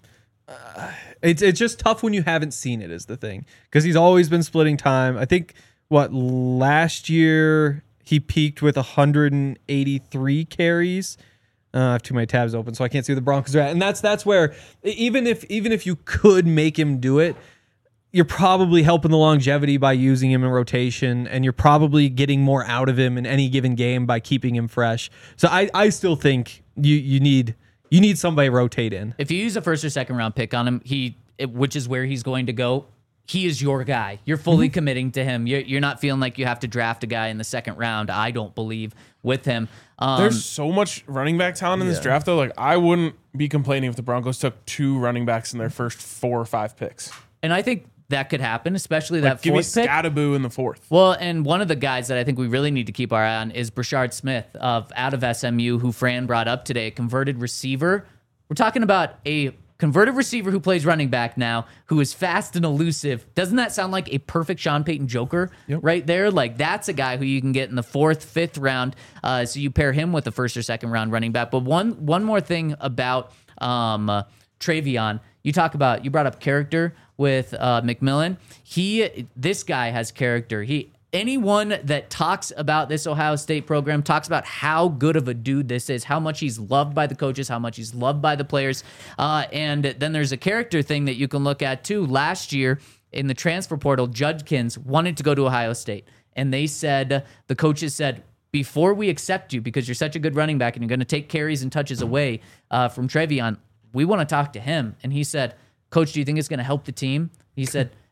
It's it's just tough when you haven't seen it is the thing, because he's always been splitting time. I think what last year he peaked with one hundred eighty-three carries. Uh, I have too many tabs open, so I can't see where the Broncos are at. And that's that's where even if even if you could make him do it, you're probably helping the longevity by using him in rotation, and you're probably getting more out of him in any given game by keeping him fresh. So I, I still think you you need you need somebody to rotate in. If you use a first or second round pick on him, he it, which is where he's going to go. He is your guy. You're fully Mm-hmm. committing to him. You're, you're not feeling like you have to draft a guy in the second round. I don't believe with him. Um, There's so much running back talent in this draft, though. Like, I wouldn't be complaining if the Broncos took two running backs in their first four or five picks. and I think that could happen, especially Like, that give me fourth pick. Scattaboo in the fourth. Well, and one of the guys that I think we really need to keep our eye on is Brashard Smith of out of S M U, who Fran brought up today, a converted receiver. We're talking about a converted receiver who plays running back now, who is fast and elusive. Doesn't that sound like a perfect Sean Payton Joker Yep. right there? Like, that's a guy who you can get in the fourth, fifth round. Uh, so you pair him with the first or second round running back. But one one more thing about um, uh, Travion, you talk about, you brought up character with uh, McMillan. He, this guy has character. He. Anyone that talks about this Ohio State program talks about how good of a dude this is, how much he's loved by the coaches, how much he's loved by the players. Uh, and then there's a character thing that you can look at too. Last year in the transfer portal, Judkins wanted to go to Ohio State. And they said, the coaches said, before we accept you, because you're such a good running back and you're going to take carries and touches away uh, from Travion, we want to talk to him. And he said, Coach, do you think it's going to help the team? He said,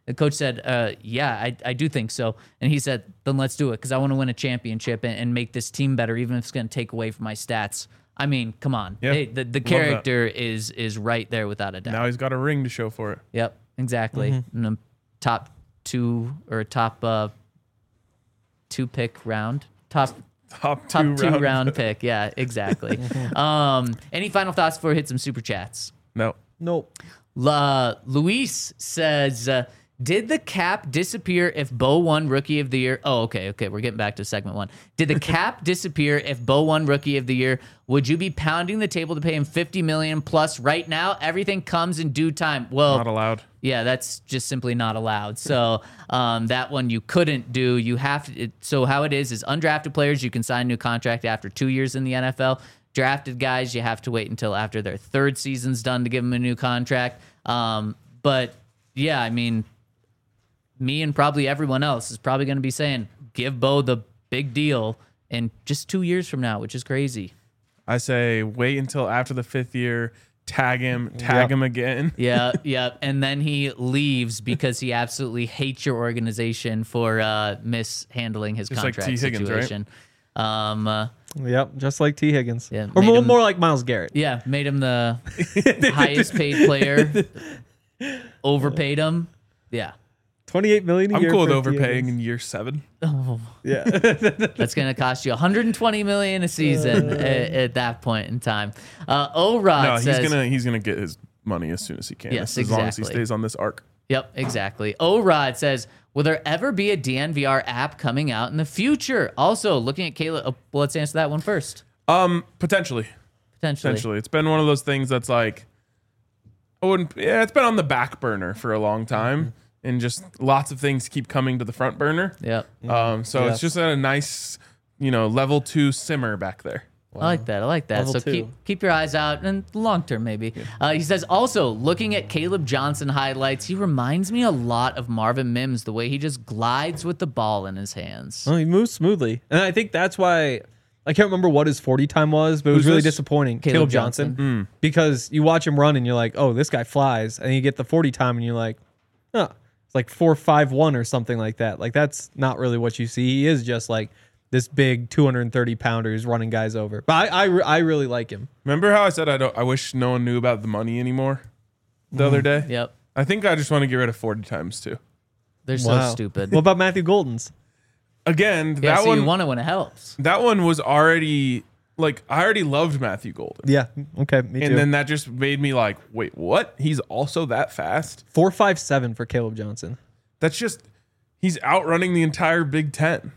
The coach said, uh, yeah, I, I do think so. And he said, then let's do it because I want to win a championship and, and make this team better, even if it's going to take away from my stats. I mean, come on. Yeah, Hey, the the love character is is right there without a doubt. Now he's got a ring to show for it. Yep, exactly. Mm-hmm. In the top two or top uh, two pick round. Top Top two, top two round. round pick. Yeah, exactly. um, any final thoughts before we hit some super chats? No. Nope. La, Luis says, uh, did the cap disappear if Bo won Rookie of the Year? Oh, okay, okay. We're getting back to segment one. Did the cap disappear if Bo won Rookie of the Year? Would you be pounding the table to pay him fifty million dollars plus right now? Everything comes in due time. Well, Not allowed. yeah, that's just simply not allowed. So um, that one you couldn't do. You have to. It, so how it is is undrafted players you can sign a new contract after two years in the N F L. Drafted guys you have to wait until after their third season's done to give them a new contract. Um, but yeah, I mean, me and probably everyone else is probably going to be saying give Bo the big deal in just two years from now, which is crazy. I say wait until after the fifth year, tag him, tag Yep. him again. Yeah, yeah. And then he leaves because he absolutely hates your organization for uh, mishandling his Just like contract T. Higgins, right? situation. Um, uh, Yep, just like T. Higgins. Yeah, or made more, him- more like Myles Garrett. yeah, made him the highest paid player. Overpaid him. Yeah, twenty-eight million dollars a I'm year. cool with for T. overpaying Higgins. in year seven. Yeah. that's going to cost you one hundred twenty million dollars a season at, at that point in time. Uh, O-Rod No, he's says, gonna he's gonna get his money as soon as he can. Yes, as long as he exactly. stays on this arc. Yep, exactly. O-Rod says, will there ever be a D N V R app coming out in the future? Also, looking at Caleb, oh, well, let's answer that one first. Um, potentially, Potentially. potentially, it's been one of those things that's like, I wouldn't. Yeah, it's been on the back burner for a long time, and just lots of things keep coming to the front burner. Yep. Um, so Yes. it's just at a nice, you know, level two simmer back there. I like that. I like that. Level so two. keep keep your eyes out and long term maybe. Uh, he says also looking at Caleb Johnson highlights, he reminds me a lot of Marvin Mims, the way he just glides with the ball in his hands. Well, he moves smoothly, and I think that's why I can't remember what his forty time was, but it was Who's really this? disappointing. Caleb Caleb, Johnson. Johnson, because you watch him run and you're like, oh, this guy flies, and you get the forty time and you're like, oh, it's like four five one or something like that. Like that's not really what you see. He is just like this big two hundred thirty pounder who's running guys over. But I I, re- I really like him. Remember how I said I don't? I wish no one knew about the money anymore. The other day, Yep. I think I just want to get rid of forty times too. They're Wow. so stupid. What about Matthew Golden's? Again, yeah, that so one you want it when it helps. that one was already like I already loved Matthew Golden. Yeah. Okay. Me too. And then that just made me like, wait, what? He's also that fast? four five seven for Caleb Johnson. That's just he's outrunning the entire Big Ten.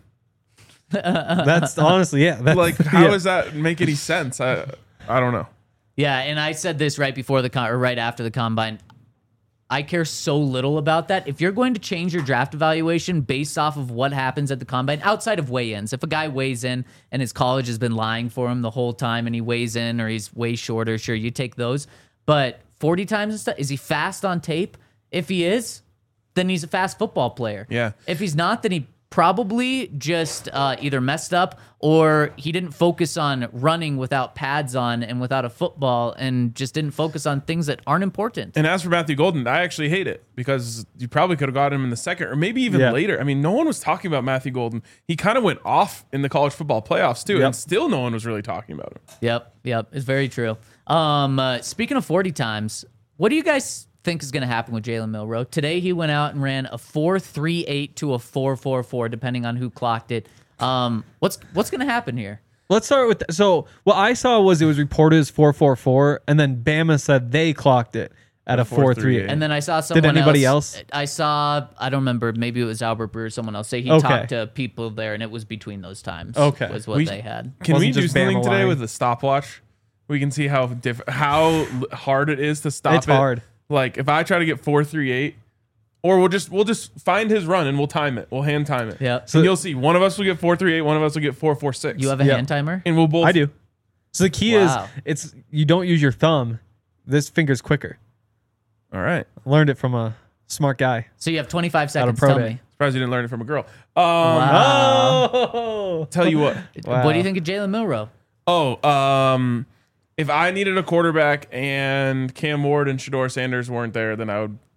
That's honestly, yeah. That's, Like, how yeah. does that make any sense? I I don't know. Yeah, and I said this right before the con- or right after the combine. I care so little about that. If you're going to change your draft evaluation based off of what happens at the combine, outside of weigh-ins, if a guy weighs in and his college has been lying for him the whole time and he weighs in or he's way shorter, sure, you take those. But forty times and stuff, is he fast on tape? If he is, then he's a fast football player. Yeah. If he's not, then he probably just uh, either messed up or he didn't focus on running without pads on and without a football and just didn't focus on things that aren't important. And as for Matthew Golden, I actually hate it because you probably could have got him in the second or maybe even Yeah. later. I mean, no one was talking about Matthew Golden. He kind of went off in the college football playoffs too, Yep. and still no one was really talking about him. Yep, yep, it's very true. Um, uh, speaking of forty times, what do you guys think is going to happen with Jalen Milroe? Today he went out and ran a four three eight to a four four four, depending on who clocked it. Um, what's what's going to happen here? Let's start with so what I saw was it was reported as four four four, and then Bama said they clocked it at a four three eight. And then I saw someone anybody else? I saw, I don't remember, maybe it was Albert Brewer or someone else say he Okay. talked to people there and it was between those times. Okay. Was what We- they had. Can Wasn't we do just something Bama today lying. with a stopwatch? We can see how diff- how l- hard it is to stop It's it. hard. Like if I try to get four three eight, or we'll just we'll just find his run and we'll time it. We'll hand time it. Yep. So you'll see one of us will get four three eight, one of us will get four four six. You have a Yeah. hand timer? and we'll both I do. So the key Wow. is it's you don't use your thumb. This finger's quicker. All right. Learned it from a smart guy. So you have twenty-five Out seconds. of pro Tell day. me. Surprised you didn't learn it from a girl. Um Wow. Oh, tell you what. Wow. What do you think of Jalen Milroe? Oh, um if I needed a quarterback and Cam Ward and Shador Sanders weren't there, then I would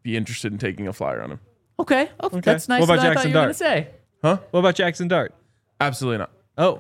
be interested in taking a flyer on him. Okay. Oh, that's nice. What about I thought Jackson you were gonna Dart? say. Huh? What about Jackson Dart? Absolutely not. Oh.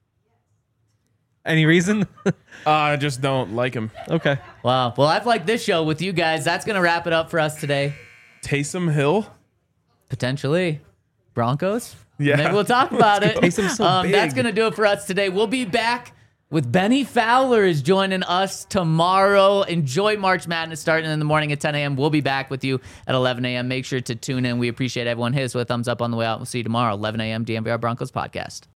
Any reason? Uh, I just don't like him. Okay. Wow. Well, I've liked this show with you guys. That's going to wrap it up for us today. Taysom Hill? Potentially. Broncos? Yeah. Maybe we'll talk about it. Taysom's so um, big. That's going to do it for us today. We'll be back with Benny Fowler is joining us tomorrow. Enjoy March Madness starting in the morning at ten a.m. We'll be back with you at eleven a.m. Make sure to tune in. We appreciate everyone. Hit us with a thumbs up on the way out. We'll see you tomorrow, eleven a.m. D M V R Broncos podcast.